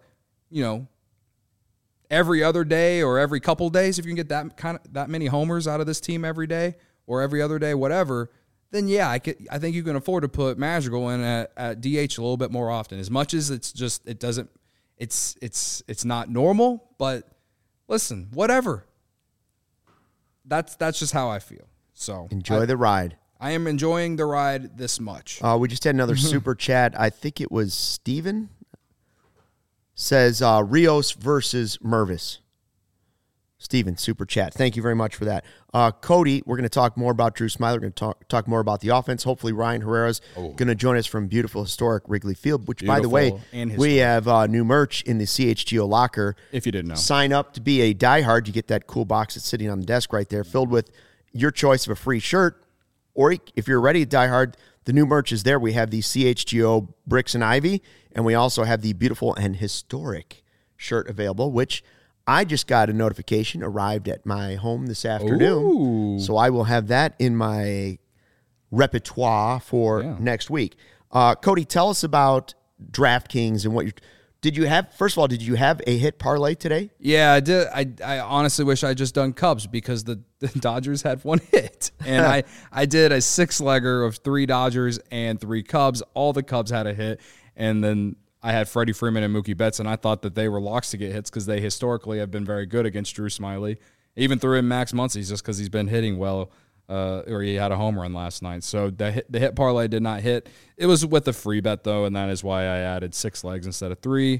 Speaker 2: every other day or every couple days, if you can get that many homers out of this team every day or every other day, whatever, then I think you can afford to put Madrigal in at DH a little bit more often. As much as it's not normal, but listen, whatever. That's just how I feel. So
Speaker 1: enjoy the ride.
Speaker 2: I am enjoying the ride this much.
Speaker 1: We just had another super chat. I think it was Steven. Says Rios versus Mervis. Steven, super chat. Thank you very much for that. Cody, we're going to talk more about Drew Smyly. We're going to talk more about the offense. Hopefully Ryan Herrera's going to join us from beautiful, historic Wrigley Field, which, by the way, we have new merch in the CHGO locker.
Speaker 2: If you didn't know.
Speaker 1: Sign up to be a diehard. You get that cool box that's sitting on the desk right there filled with your choice of a free shirt. Or if you're already a diehard, the new merch is there. We have the CHGO Bricks and Ivy, and we also have the beautiful and historic shirt available, which I just got a notification arrived at my home this afternoon.
Speaker 2: Ooh.
Speaker 1: So I will have that in my repertoire for next week. Cody, tell us about DraftKings and what did you have? First of all, did you have a hit parlay today?
Speaker 2: Yeah, I did. I honestly wish I just done Cubs because the Dodgers had one hit. And I did a 6-legger of 3 Dodgers and 3 Cubs. All the Cubs had a hit. And then I had Freddie Freeman and Mookie Betts, and I thought that they were locks to get hits because they historically have been very good against Drew Smyly. Even threw in Max Muncy just because he's been hitting well, or he had a home run last night. So the hit parlay did not hit. It was with a free bet, though, and that is why I added 6 legs instead of 3.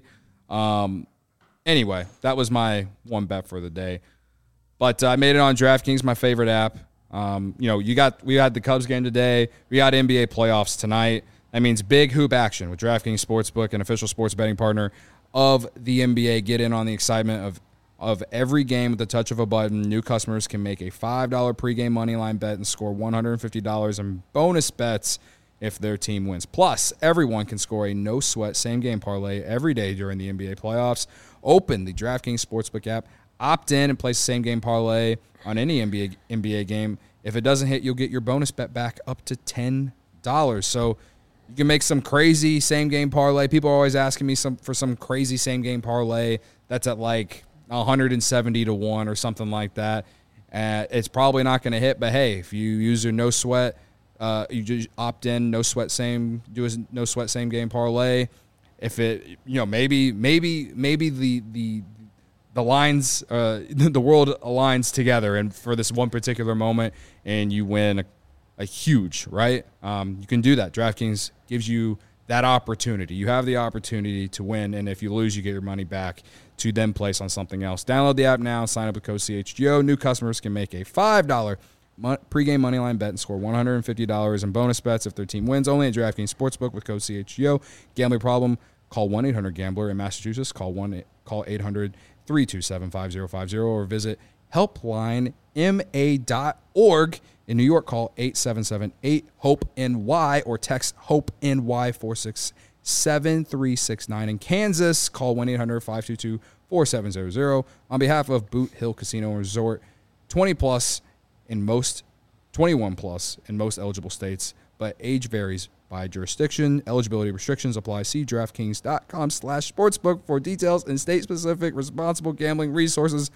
Speaker 2: Anyway, that was my one bet for the day. But I made it on DraftKings, my favorite app. We had the Cubs game today. We got NBA playoffs tonight. That means big hoop action with DraftKings Sportsbook, an official sports betting partner of the NBA. Get in on the excitement of every game with the touch of a button. New customers can make a $5 pregame moneyline bet and score $150 in bonus bets if their team wins. Plus, everyone can score a no-sweat same-game parlay every day during the NBA playoffs. Open the DraftKings Sportsbook app, opt in, and place a same-game parlay on any NBA game. If it doesn't hit, you'll get your bonus bet back up to $10. So you can make some crazy same-game parlay. People are always asking me for some crazy same-game parlay that's at like 170 to 1 or something like that. It's probably not going to hit, but hey, if you use your no sweat, you just opt in, no sweat same game parlay. If it, maybe the lines, the world aligns together, and for this one particular moment, and you win a huge, right? You can do that. DraftKings gives you that opportunity. You have the opportunity to win, and if you lose, you get your money back to then place on something else. Download the app now. Sign up with code CHGO. New customers can make a $5 pregame moneyline bet and score $150 in bonus bets if their team wins. Only at DraftKings Sportsbook with code CHGO. Gambling problem? Call 1-800-GAMBLER. In Massachusetts, call 800-327-5050 or visit helplinema.org. In New York, call 877-8-HOPE-NY or text HOPE-NY 467-369. In Kansas, call 1-800-522-4700. On behalf of Boot Hill Casino and Resort, 21 plus in most eligible states, but age varies by jurisdiction. Eligibility restrictions apply. See DraftKings.com/sportsbook for details and state-specific responsible gambling resources.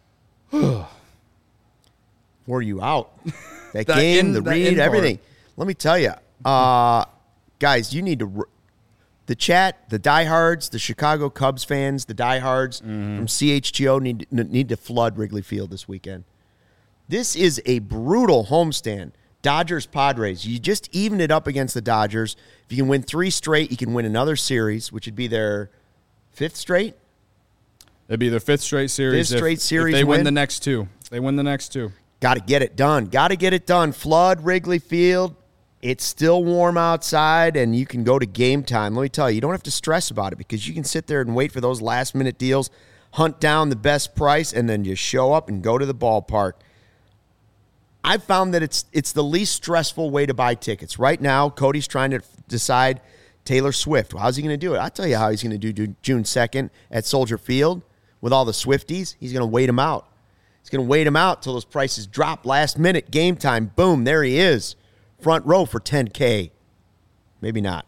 Speaker 1: Wore you out. That game, the read, everything. Let me tell you, guys, you need to the chat, the diehards, the Chicago Cubs fans, the diehards from CHGO need to flood Wrigley Field this weekend. This is a brutal homestand. Dodgers, Padres. You just even it up against the Dodgers. If you can win 3 straight, you can win another series, which would be their 5th straight.
Speaker 2: It'd be their 5th straight series.
Speaker 1: 5th straight series.
Speaker 2: If they win the next 2. They win the next 2.
Speaker 1: Got to get it done. Got to get it done. Flood Wrigley Field. It's still warm outside, and you can go to Game Time. Let me tell you, you don't have to stress about it because you can sit there and wait for those last-minute deals, hunt down the best price, and then just show up and go to the ballpark. I've found that it's the least stressful way to buy tickets. Right now, Cody's trying to decide Taylor Swift. How's he going to do it? I'll tell you how he's going to do June 2nd at Soldier Field with all the Swifties. He's going to wait them out. He's going to wait him out till those prices drop last minute. Game Time. Boom. There he is. Front row for $10K. Maybe not.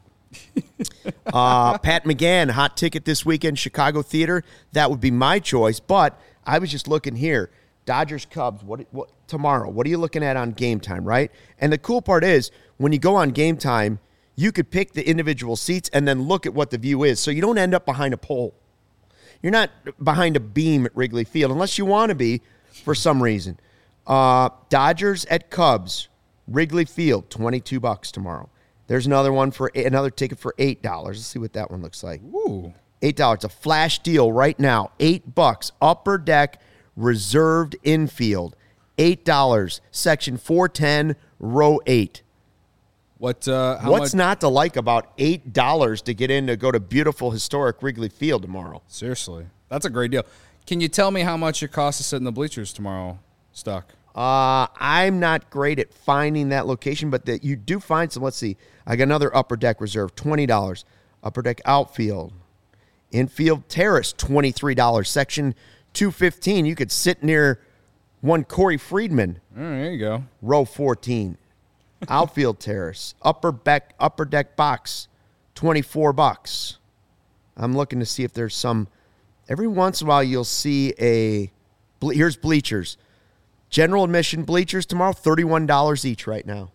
Speaker 1: Pat McGann, hot ticket this weekend, Chicago Theater. That would be my choice. But I was just looking here. Dodgers, Cubs, what tomorrow? What are you looking at on Game Time, right? And the cool part is when you go on Game Time, you could pick the individual seats and then look at what the view is. So you don't end up behind a pole. You're not behind a beam at Wrigley Field unless you want to be for some reason. Dodgers at Cubs, Wrigley Field, $22 tomorrow. There's another one for another ticket for $8. Let's see what that one looks like.
Speaker 2: Ooh.
Speaker 1: $8. It's a flash deal right now. $8. Upper deck, reserved infield. $8. Section 410, row 8.
Speaker 2: What's
Speaker 1: not to like about $8 to get in to go to beautiful historic Wrigley Field tomorrow?
Speaker 2: Seriously, that's a great deal. Can you tell me how much it costs to sit in the bleachers tomorrow, Stuck?
Speaker 1: I'm not great at finding that location, but that you do find some. Let's see. I got another upper deck reserve, $20. Upper deck outfield. Infield terrace, $23. Section 215. You could sit near one Corey Friedman.
Speaker 2: There you go.
Speaker 1: Row 14. Outfield terrace. Upper deck box, $24. I'm looking to see if there's some. Every once in a while, you'll see here's bleachers. General admission bleachers tomorrow, $31 each right now.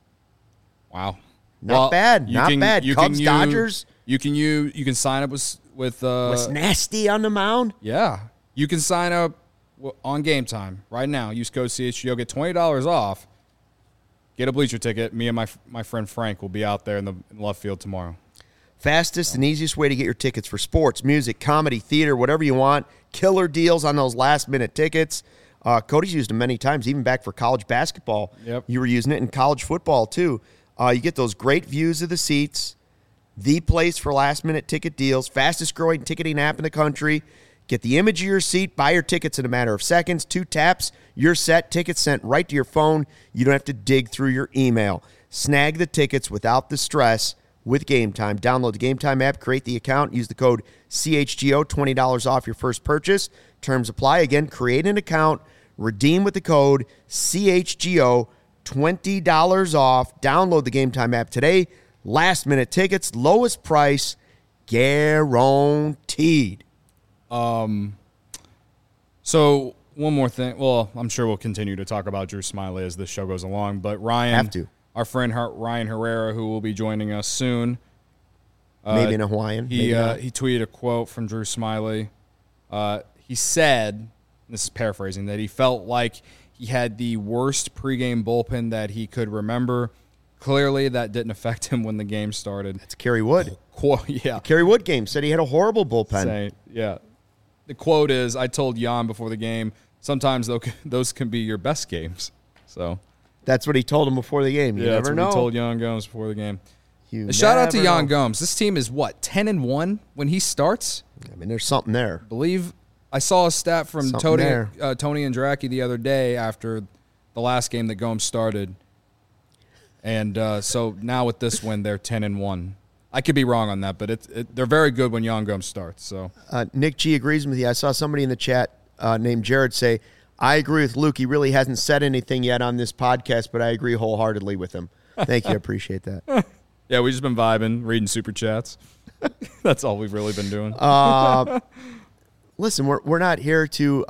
Speaker 2: Wow.
Speaker 1: Not bad. Cubs, Dodgers.
Speaker 2: You can sign up with
Speaker 1: what's nasty on the mound?
Speaker 2: Yeah. You can sign up on Game Time right now. Use code CHGO, get $20 off. Get a bleacher ticket. Me and my friend Frank will be out there in the left field tomorrow.
Speaker 1: Fastest and easiest way to get your tickets for sports, music, comedy, theater, whatever you want. Killer deals on those last-minute tickets. Cody's used them many times, even back for college basketball.
Speaker 2: Yep.
Speaker 1: You were using it in college football, too. You get those great views of the seats, the place for last-minute ticket deals, fastest-growing ticketing app in the country. Get the image of your seat, buy your tickets in a matter of seconds. 2 taps, you're set, tickets sent right to your phone. You don't have to dig through your email. Snag the tickets without the stress with Game Time. Download the Game Time app, create the account, use the code CHGO, $20 off your first purchase. Terms apply. Again, create an account, redeem with the code CHGO, $20 off. Download the Game Time app today. Last-minute tickets, lowest price, guaranteed.
Speaker 2: So One more thing. Well, I'm sure we'll continue to talk about Drew Smyly as this show goes along. But our friend Ryan Herrera, who will be joining us soon.
Speaker 1: Maybe in a Hawaiian.
Speaker 2: He tweeted a quote from Drew Smyly. He said, this is paraphrasing, that he felt like he had the worst pregame bullpen that he could remember. Clearly, that didn't affect him when the game started.
Speaker 1: It's Kerry Wood.
Speaker 2: Yeah.
Speaker 1: The Kerry Wood game said he had a horrible bullpen.
Speaker 2: Yeah. The quote is, I told Jan before the game, sometimes those can be your best games. So
Speaker 1: that's what he told him before the game. You never know.
Speaker 2: What he told Jan Gomes before the game. Shout out to Jan Gomes. This team is 10-1 when he starts.
Speaker 1: I mean, there's something there.
Speaker 2: I believe I saw a stat from Tony and Draki the other day after the last game that Gomes started. And so now with this win, they're 10-1. I could be wrong on that, but they're very good when Jan Gomes starts. So
Speaker 1: Nick G agrees with you. I saw somebody in the chat named Jared say, I agree with Luke. He really hasn't said anything yet on this podcast, but I agree wholeheartedly with him. Thank you. I appreciate that.
Speaker 2: Yeah, we've just been vibing, reading super chats. That's all we've really been doing.
Speaker 1: Listen, we're not here to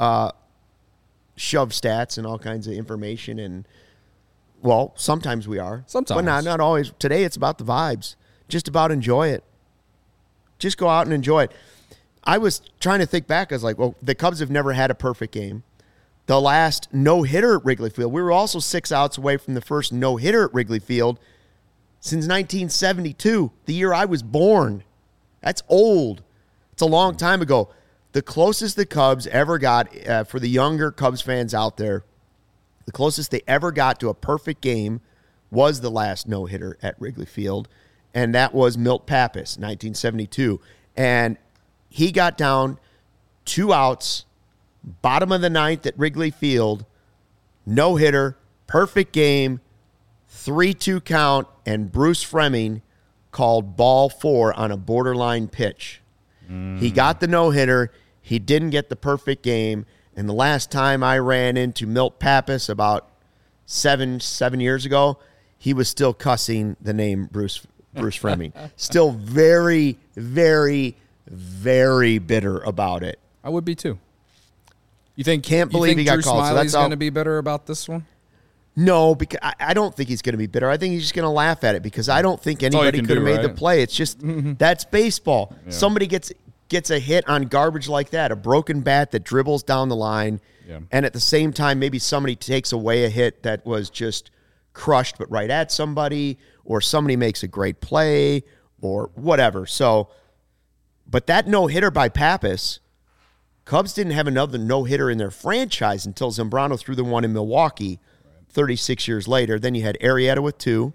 Speaker 1: shove stats and all kinds of information. And, well, sometimes we are.
Speaker 2: Sometimes.
Speaker 1: But not always. Today it's about the vibes. Just about enjoy it. Just go out and enjoy it. I was trying to think back. I was like, well, the Cubs have never had a perfect game. The last no-hitter at Wrigley Field, we were also 6 outs away from the first no-hitter at Wrigley Field since 1972, the year I was born. That's old. It's a long time ago. The closest the Cubs ever got, for the younger Cubs fans out there, the closest they ever got to a perfect game was the last no-hitter at Wrigley Field, and that was Milt Pappas, 1972. And he got down 2 outs, bottom of the ninth at Wrigley Field, no-hitter, perfect game, 3-2 count, and Bruce Fleming called ball 4 on a borderline pitch. He got the no-hitter. He didn't get the perfect game. And the last time I ran into Milt Pappas about seven years ago, he was still cussing the name Bruce Fleming. Still very, very, very bitter about it.
Speaker 2: I would be too. You think
Speaker 1: he got called.
Speaker 2: Smyly's going to be bitter about this one?
Speaker 1: No, because I don't think he's going to be bitter. I think he's just going to laugh at it because I don't think anybody could have made the play. It's just that's baseball. Yeah. Somebody gets a hit on garbage like that, a broken bat that dribbles down the line, and at the same time maybe somebody takes away a hit that was just crushed but right at somebody, or somebody makes a great play or whatever. So, but that no-hitter by Pappas, Cubs didn't have another no-hitter in their franchise until Zambrano threw the one in Milwaukee 36 years later. Then you had Arrieta with 2.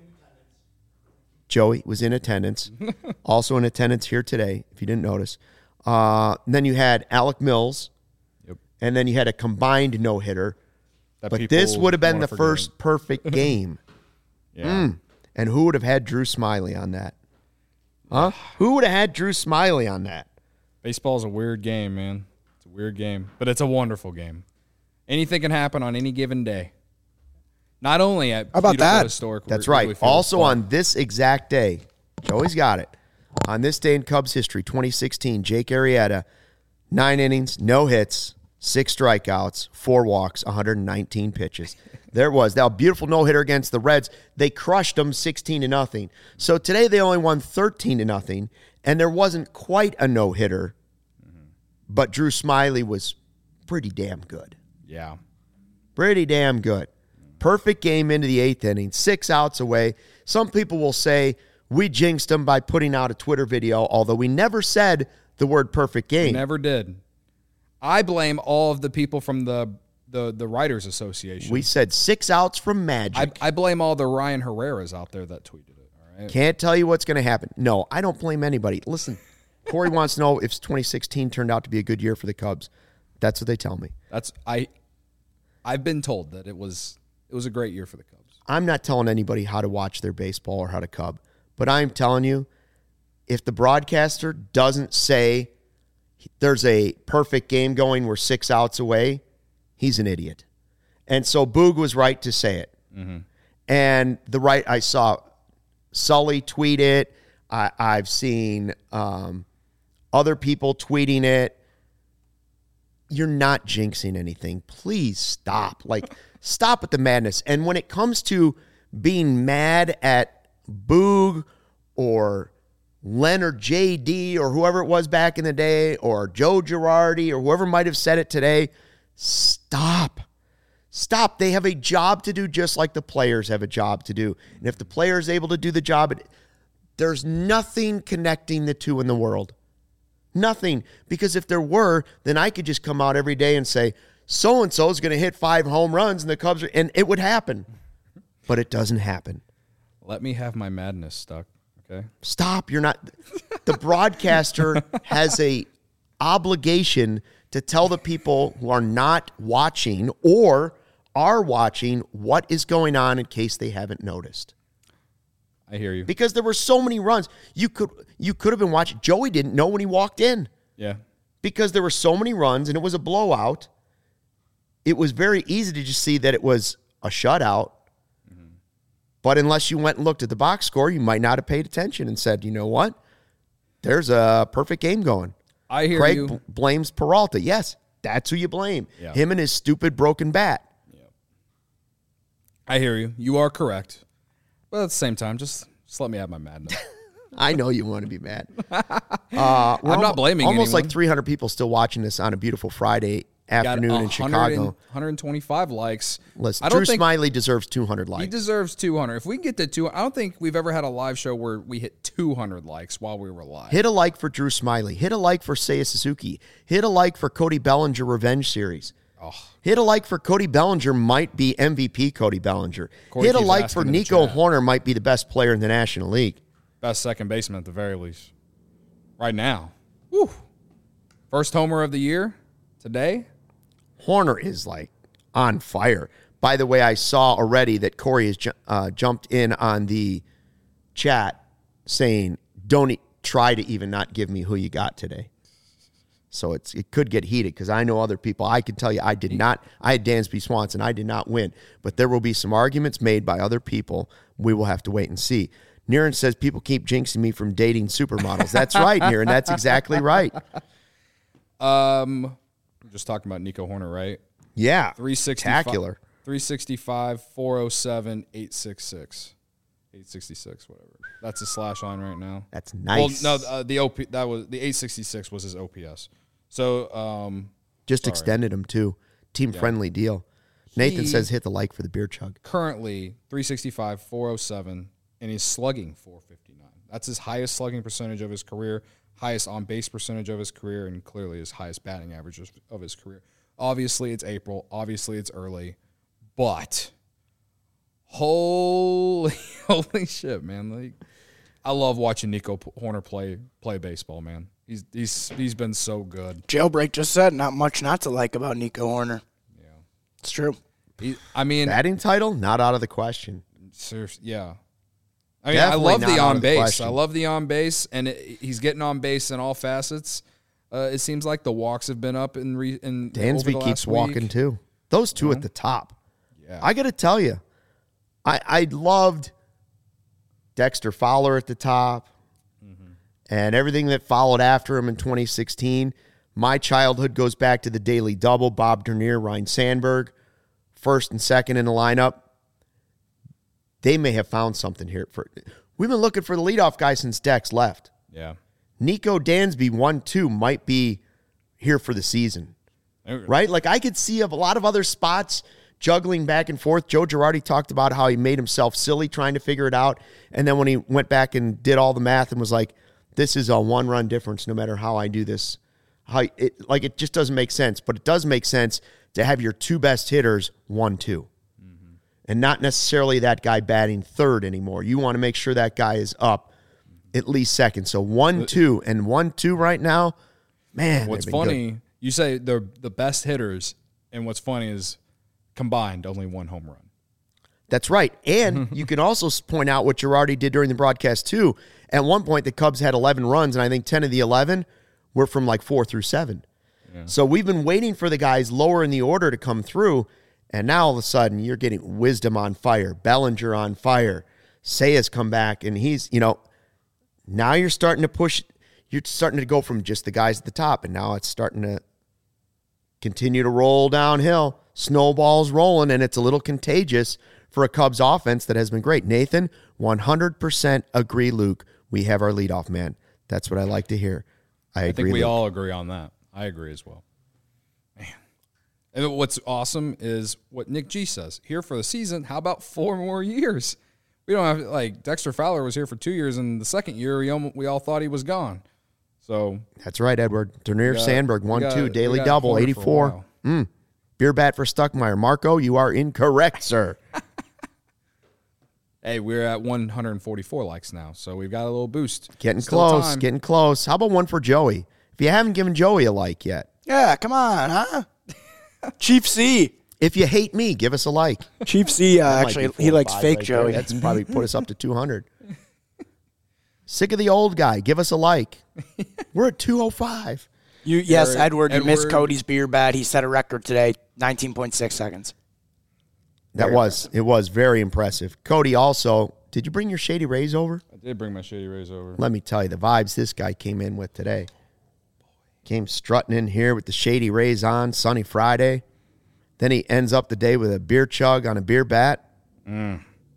Speaker 1: Joey was in attendance. Also in attendance here today, if you didn't notice. Then you had Alec Mills. Yep. And then you had a combined no-hitter. But this would have been the first perfect game. And who would have had Drew Smyly on that? Huh? Who would have had Drew Smyly on that?
Speaker 2: Baseball is a weird game, man. It's a weird game. But it's a wonderful game. Anything can happen on any given day. Not only at historic.
Speaker 1: That's right. Also on this exact day, Joey's got it. On this day in Cubs history, 2016, Jake Arrieta, 9 innings, no hits, 6 strikeouts, 4 walks, 119 pitches. There it was. That beautiful no-hitter against the Reds. They crushed them 16-0. So today they only won 13-0, and there wasn't quite a no-hitter, but Drew Smyly was pretty damn good.
Speaker 2: Yeah.
Speaker 1: Pretty damn good. Perfect game into the 8th inning, 6 outs away. Some people will say we jinxed them by putting out a Twitter video, although we never said the word perfect game.
Speaker 2: We never did. I blame all of the people from the Writers Association.
Speaker 1: We said 6 outs from Magic.
Speaker 2: I blame all the Ryan Herreras out there that tweeted it. All right?
Speaker 1: Can't tell you what's going to happen. No, I don't blame anybody. Listen, Corey wants to know if 2016 turned out to be a good year for the Cubs. That's what they tell me.
Speaker 2: I've been told that it was a great year for the Cubs.
Speaker 1: I'm not telling anybody how to watch their baseball or how to Cub, but I'm telling you, if the broadcaster doesn't say there's a perfect game going, we're 6 outs away, he's an idiot. And so Boog was right to say it. Mm-hmm. And I saw Sully tweet it. I've seen other people tweeting it. you're not jinxing anything. Please stop. Like, stop with the madness. And when it comes to being mad at Boog or Leonard JD or whoever it was back in the day, or Joe Girardi or whoever might have said it today, stop. Stop. They have a job to do just like the players have a job to do. And if the player is able to do the job, there's nothing connecting the two in the world. Nothing. Because if there were, then I could just come out every day and say, so-and-so is going to hit 5 home runs and the Cubs are, and it would happen. But it doesn't happen.
Speaker 2: Let me have my madness stuck, okay?
Speaker 1: Stop. You're not. The broadcaster has a obligation to tell the people who are not watching or are watching what is going on in case they haven't noticed.
Speaker 2: I hear you.
Speaker 1: Because there were so many runs. You could have been watching. Joey didn't know when he walked in.
Speaker 2: Yeah.
Speaker 1: Because there were so many runs and it was a blowout. It was very easy to just see that it was a shutout. Mm-hmm. But unless you went and looked at the box score, you might not have paid attention and said, you know what? There's a perfect game going.
Speaker 2: I hear
Speaker 1: Craig
Speaker 2: you.
Speaker 1: Blames Peralta. Yes, that's who you blame.
Speaker 2: Yeah.
Speaker 1: Him and his stupid broken bat.
Speaker 2: Yeah. I hear you. You are correct. But at the same time, just let me have my madness.
Speaker 1: I know you want to be mad.
Speaker 2: I'm not blaming
Speaker 1: almost
Speaker 2: anyone.
Speaker 1: Like 300 people still watching this on a beautiful Friday afternoon in Chicago.
Speaker 2: 125 likes.
Speaker 1: Listen, Drew Smiley deserves 200 likes.
Speaker 2: He deserves 200. If we can get to 200, I don't think we've ever had a live show where we hit 200 likes while we were live.
Speaker 1: Hit a like for Drew Smiley. Hit a like for Seiya Suzuki. Hit a like for Cody Bellinger Revenge Series. Oh. Hit a like for Cody Bellinger might be MVP Cody Bellinger. Hit a like for Nico Horner might be the best player in the National League.
Speaker 2: Best second baseman at the very least. Right now. Woo. First homer of the year today.
Speaker 1: Horner is like on fire. By the way, I saw already that Corey has jumped in on the chat saying, don't try to even not give me who you got today. So it could get heated because I know other people. I can tell you I had Dansby Swanson. I did not win. But there will be some arguments made by other people. We will have to wait and see. Niren says people keep jinxing me from dating supermodels. That's right, Niren. That's exactly right.
Speaker 2: We're just talking about Nico Horner, right?
Speaker 1: Yeah.
Speaker 2: 365, 407, 866. 866, whatever. That's a slash line right now.
Speaker 1: That's nice.
Speaker 2: Well, no, the 866 was his OPS. So,
Speaker 1: just extended him too. Team-friendly deal. Nathan says hit the like for the beer chug.
Speaker 2: Currently, 365, 407, and he's slugging 459. That's his highest slugging percentage of his career, highest on-base percentage of his career, and clearly his highest batting average of his career. Obviously, it's April. Obviously, it's early. But holy shit, man. Like, I love watching Nico Horner play baseball, man. He's been so good.
Speaker 3: Jailbreak just said not much not to like about Nico Horner.
Speaker 2: Yeah.
Speaker 3: It's true.
Speaker 1: Batting title, not out of the question.
Speaker 2: Seriously, yeah. I mean, I love the on base. I love the on base, and he's getting on base in all facets. It seems like the walks have been up in
Speaker 1: Dansby keeps walking too. Those two at the top.
Speaker 2: Yeah.
Speaker 1: I got to tell you, I loved Dexter Fowler at the top, and everything that followed after him in 2016. My childhood goes back to the Daily Double, Bob Dernier, Ryan Sandberg, first and second in the lineup. They may have found something here. We've been looking for the leadoff guy since Dex left.
Speaker 2: Yeah.
Speaker 1: Nico Dansby 1-2 might be here for the season. Right? Like, I could see a lot of other spots juggling back and forth. Joe Girardi talked about how he made himself silly trying to figure it out. And then when he went back and did all the math and was like, this is a one-run difference no matter how I do this. It just doesn't make sense. But it does make sense to have your two best hitters 1-2. And not necessarily that guy batting third anymore. You want to make sure that guy is up at least second. So 1-2 and 1-2 right now, man.
Speaker 2: What's funny, you say they're the best hitters, and what's funny is combined only one home run.
Speaker 1: That's right. And you can also point out what Girardi did during the broadcast too. At one point, the Cubs had 11 runs, and I think 10 of the 11 were from like 4 through 7. Yeah. So we've been waiting for the guys lower in the order to come through. And now all of a sudden, you're getting Wisdom on fire, Bellinger on fire. Seiya's come back, and he's, now you're starting to push. You're starting to go from just the guys at the top, and now it's starting to continue to roll downhill. Snowball's rolling, and it's a little contagious for a Cubs offense that has been great. Nathan, 100% agree, Luke. We have our leadoff man. That's what I like to hear. I agree.
Speaker 2: I think we
Speaker 1: Luke.
Speaker 2: all agree on that. I agree as well. Man. And what's awesome is what Nick G says. Here for the season, how about 4 more years? We don't have, like, Dexter Fowler was here for 2 years, and the second year we all thought he was gone. So
Speaker 1: that's right, Edward. Dernier Sandberg, 1-2, daily double, 84. Beer bat for Stuckmeyer. Marco, you are incorrect, sir.
Speaker 2: Hey, we're at 144 likes now, so we've got a little boost.
Speaker 1: Getting close. How about one for Joey? If you haven't given Joey a like yet.
Speaker 3: Yeah, come on, huh? Chief C.
Speaker 1: If you hate me, give us a like.
Speaker 3: Chief C, actually, he likes fake Joey.
Speaker 1: That's probably put us up to 200. Sick of the old guy. Give us a like. We're at 205.
Speaker 3: Yes, Edward, you missed Cody's beer bat. He set a record today, 19.6 seconds.
Speaker 1: It was very impressive. Cody also, did you bring your Shady Rays over?
Speaker 2: I did bring my Shady Rays over.
Speaker 1: Let me tell you, the vibes this guy came in with today. Came strutting in here with the Shady Rays on, sunny Friday. Then he ends up the day with a beer chug on a beer bat.
Speaker 2: I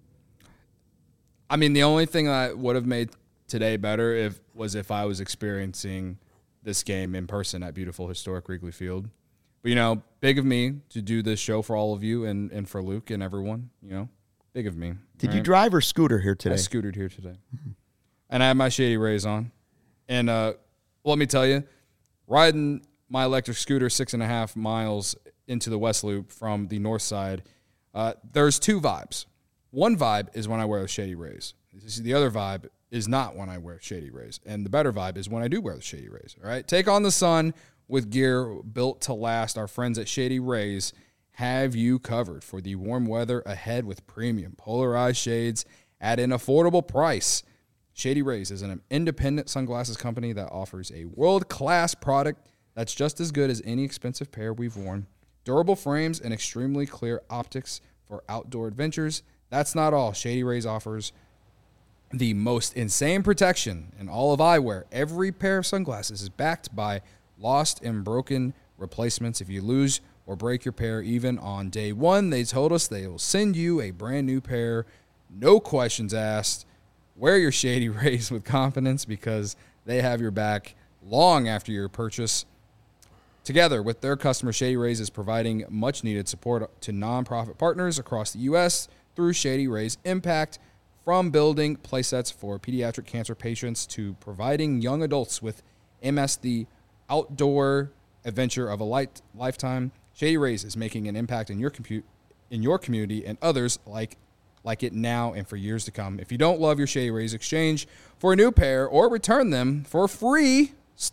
Speaker 2: mean, the only thing that would have made today better if I was experiencing this game in person at beautiful historic Wrigley Field. But, big of me to do this show for all of you and for Luke and everyone, big of me.
Speaker 1: Did you drive or scooter here today?
Speaker 2: I scootered here today. Mm-hmm. And I have my Shady Rays on. And let me tell you, riding my electric scooter 6.5 miles into the West Loop from the north side, there's 2 vibes. One vibe is when I wear the Shady Rays. The other vibe is not when I wear Shady Rays. And the better vibe is when I do wear the Shady Rays. All right? Take on the sun with gear built to last. Our friends at Shady Rays have you covered for the warm weather ahead with premium polarized shades at an affordable price. Shady Rays is an independent sunglasses company that offers a world-class product that's just as good as any expensive pair we've worn. Durable frames and extremely clear optics for outdoor adventures. That's not all. Shady Rays offers the most insane protection in all of eyewear. Every pair of sunglasses is backed by lost and broken replacements. If you lose or break your pair even on day 1, they told us they will send you a brand new pair. No questions asked. Wear your Shady Rays with confidence because they have your back long after your purchase. Together with their customers, Shady Rays is providing much-needed support to nonprofit partners across the U.S. through Shady Rays Impact, from building playsets for pediatric cancer patients to providing young adults with MS the outdoor adventure of a lifetime. Shady Rays is making an impact in your community and others like it now and for years to come. If you don't love your Shady Rays, exchange for a new pair or return them for free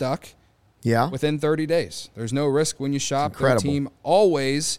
Speaker 2: within 30 days. There's no risk when you shop. Their team always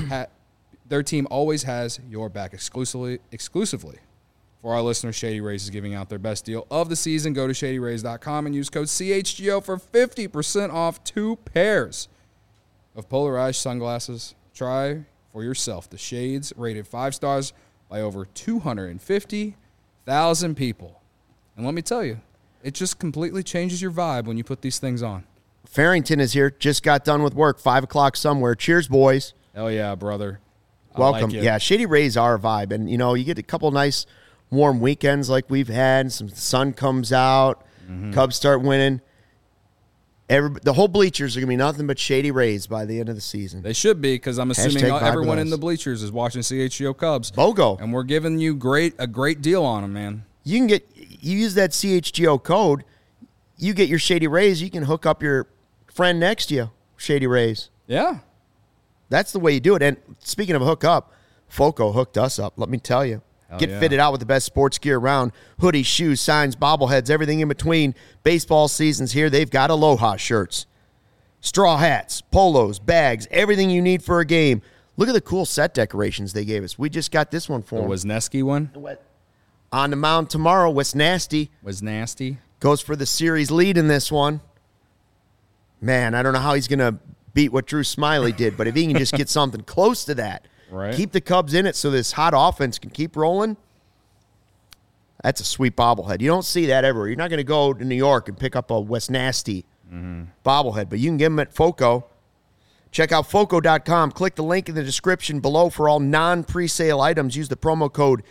Speaker 2: has your back exclusively. For our listeners, Shady Rays is giving out their best deal of the season. Go to ShadyRays.com and use code CHGO for 50% off 2 pairs of polarized sunglasses. Try for yourself the shades rated 5 stars by over 250,000 people. And let me tell you, it just completely changes your vibe when you put these things on.
Speaker 1: Farrington is here. Just got done with work. 5 o'clock somewhere. Cheers, boys.
Speaker 2: Hell yeah, brother.
Speaker 1: Welcome.
Speaker 2: Like
Speaker 1: yeah, Shady Rays are a vibe. And, you get a couple nice warm weekends like we've had. Some sun comes out. Mm-hmm. Cubs start winning. The whole bleachers are going to be nothing but Shady Rays by the end of the season.
Speaker 2: They should be, because I'm assuming everyone in the bleachers is watching CHGO Cubs.
Speaker 1: BOGO.
Speaker 2: And we're giving you a great deal on them, man.
Speaker 1: You use that CHGO code, you get your Shady Rays, you can hook up your friend next to you, Shady Rays.
Speaker 2: Yeah.
Speaker 1: That's the way you do it. And speaking of hook up, Foco hooked us up, let me tell you. Get fitted out with the best sports gear around. Hoodies, shoes, signs, bobbleheads, everything in between. Baseball season's here. They've got Aloha shirts, straw hats, polos, bags, everything you need for a game. Look at the cool set decorations they gave us. We just got this one for them.
Speaker 2: The Wisniewski one?
Speaker 1: On the mound tomorrow,
Speaker 2: Wisniewski.
Speaker 1: Goes for the series lead in this one. Man, I don't know how he's going to beat what Drew Smiley did, but if he can just get something close to that,
Speaker 2: right,
Speaker 1: keep the Cubs in it so this hot offense can keep rolling, that's a sweet bobblehead. You don't see that ever. You're not going to go to New York and pick up a Wisniewski bobblehead, but you can get them at Foco. Check out Foco.com. Click the link in the description below for all non-presale items. Use the promo code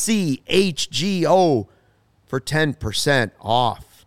Speaker 1: CHGO for 10% off.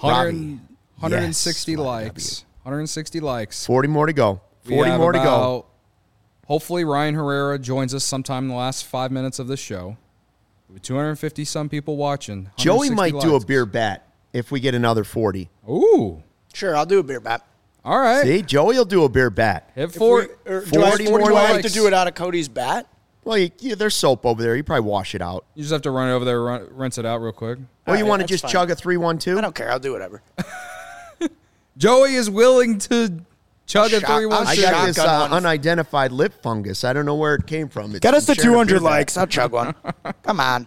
Speaker 2: 160 likes. 160 likes.
Speaker 1: 40 more to go. 40 more to go.
Speaker 2: Hopefully Ryan Herrera joins us sometime in the last 5 minutes of this show. With 250 some people watching.
Speaker 1: Joey might do a beer bat if we get another 40.
Speaker 2: Ooh.
Speaker 3: Sure, I'll do a beer bat.
Speaker 2: All right.
Speaker 1: See, Joey will do a beer bat.
Speaker 2: Hit 40
Speaker 3: more. Do I have to do it out of Cody's bat?
Speaker 1: Well, there's soap over there. You probably wash it out.
Speaker 2: You just have to run it over there, rinse it out real quick.
Speaker 1: Or you want to just chug a 3-1-2?
Speaker 3: I don't care. I'll do whatever.
Speaker 2: Joey is willing to chug a 3-1-2.
Speaker 1: I got this unidentified lip fungus. I don't know where it came from.
Speaker 3: Get us to 200 likes. I'll chug one. Come on.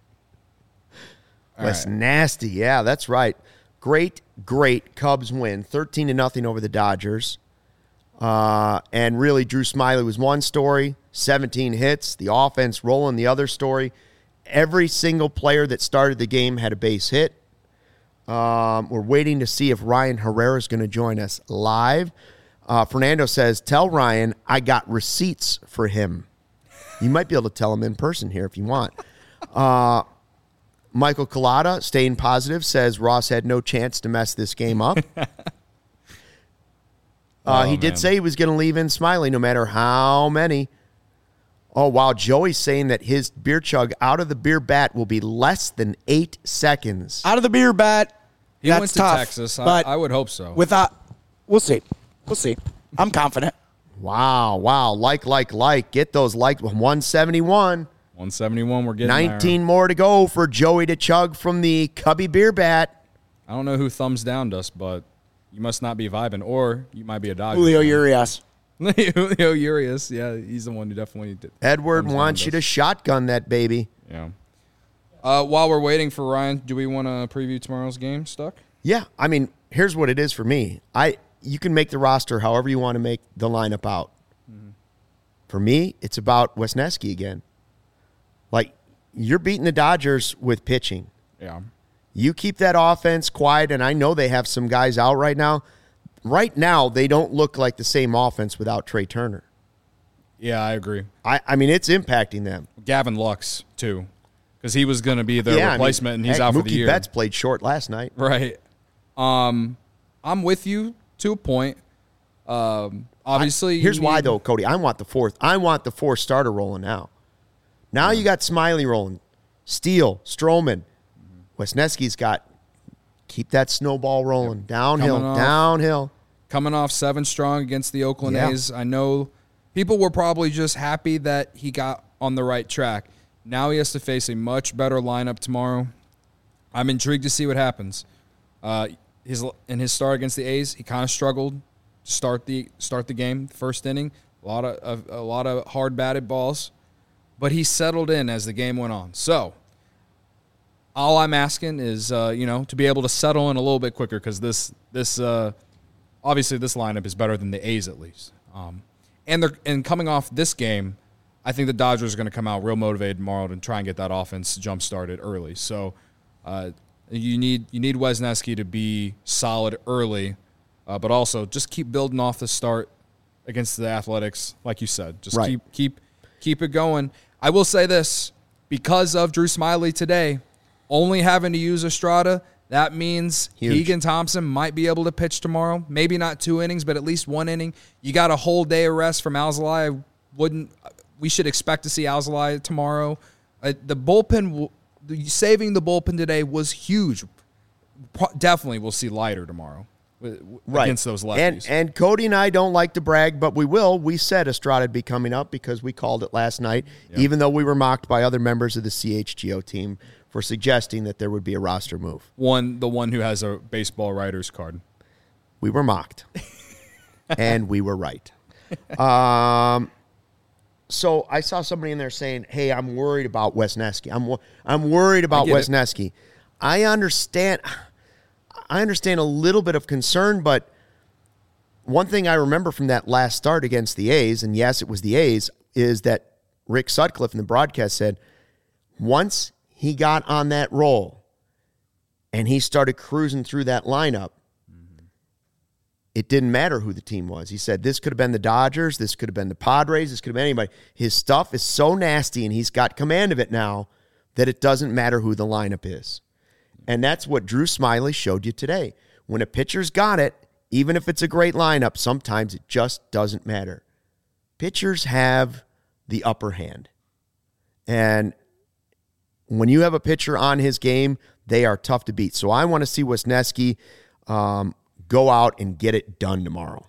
Speaker 1: That's nasty. Yeah, that's right. Great Cubs win, 13-0 over the Dodgers. And really, Drew Smyly was one story, 17 hits. The offense rolling the other story. Every single player that started the game had a base hit. We're waiting to see if Ryan Herrera is going to join us live. Fernando says, tell Ryan I got receipts for him. You might be able to tell him in person here if you want. Michael Collada, staying positive, says Ross had no chance to mess this game up. He did say he was going to leave in Smyly no matter how many. Oh, wow. Joey's saying that his beer chug out of the beer bat will be less than 8 seconds.
Speaker 3: Out of the beer bat,
Speaker 2: he
Speaker 3: that's
Speaker 2: went to
Speaker 3: tough,
Speaker 2: Texas.
Speaker 3: But
Speaker 2: I would hope so.
Speaker 3: We'll see. We'll see. I'm confident.
Speaker 1: Wow. Like. Get those likes. 171.
Speaker 2: 171, we're getting
Speaker 1: 19
Speaker 2: there.
Speaker 1: more to go for Joey to chug from the Cubby beer bat.
Speaker 2: I don't know who thumbs downed us, but you must not be vibing, or you might be a Dodger.
Speaker 3: Julio Urias.
Speaker 2: Julio Urias, yeah, he's the one who definitely did.
Speaker 1: Edward wants you to shotgun that baby.
Speaker 2: Yeah. While we're waiting for Ryan, do we want to preview tomorrow's game, Stuck?
Speaker 1: Yeah, I mean, here's what it is for me. You can make the roster however you want to make the lineup out. Mm-hmm. For me, it's about Wesneski again. Like, you're beating the Dodgers with pitching.
Speaker 2: Yeah.
Speaker 1: You keep that offense quiet, and I know they have some guys out right now. Right now, they don't look like the same offense without Trey Turner.
Speaker 2: Yeah, I agree.
Speaker 1: I mean, it's impacting them.
Speaker 2: Gavin Lux, too, because he was going to be their replacement, and he's out for the year.
Speaker 1: Mookie Betts played short last night.
Speaker 2: Right. I'm with you to a point. Obviously,
Speaker 1: here's why, though, Cody. I want the fourth starter rolling now. Now you got Smyly rolling. Steele, Stroman. Wesneski's got keep that snowball rolling. Yep. Downhill.
Speaker 2: Coming off 7 strong against the Oakland A's. I know people were probably just happy that he got on the right track. Now he has to face a much better lineup tomorrow. I'm intrigued to see what happens. In his start against the A's, he kind of struggled to start the game, first inning. A lot of hard batted balls. But he settled in as the game went on. So all I'm asking is, to be able to settle in a little bit quicker, because this obviously this lineup is better than the A's at least. And coming off this game, I think the Dodgers are going to come out real motivated tomorrow to try and get that offense jump started early. So you need Wesneski to be solid early, but also just keep building off the start against the Athletics, like you said. Just keep it going. I will say this, because of Drew Smyly today, only having to use Estrada, that means Keegan Thompson might be able to pitch tomorrow. Maybe not 2 innings, but at least 1 inning. You got a whole day of rest from Alzolay. We should expect to see Alzolay tomorrow. The bullpen, saving the bullpen today was huge. Definitely we'll see Leiter tomorrow. Against those lefties.
Speaker 1: And Cody and I don't like to brag, but we will. We said Estrada would be coming up because we called it last night, even though we were mocked by other members of the CHGO team for suggesting that there would be a roster move.
Speaker 2: The one who has a baseball writer's card.
Speaker 1: We were mocked, and we were right. So I saw somebody in there saying, hey, I'm worried about Wesneski. I'm worried about Wesneski. I understand a little bit of concern, but one thing I remember from that last start against the A's, and yes, it was the A's, is that Rick Sutcliffe in the broadcast said once he got on that roll and he started cruising through that lineup, it didn't matter who the team was. He said this could have been the Dodgers, this could have been the Padres, this could have been anybody. His stuff is so nasty, and he's got command of it now that it doesn't matter who the lineup is. And that's what Drew Smyly showed you today. When a pitcher's got it, even if it's a great lineup, sometimes it just doesn't matter. Pitchers have the upper hand. And when you have a pitcher on his game, they are tough to beat. So I want to see Wesneski go out and get it done tomorrow.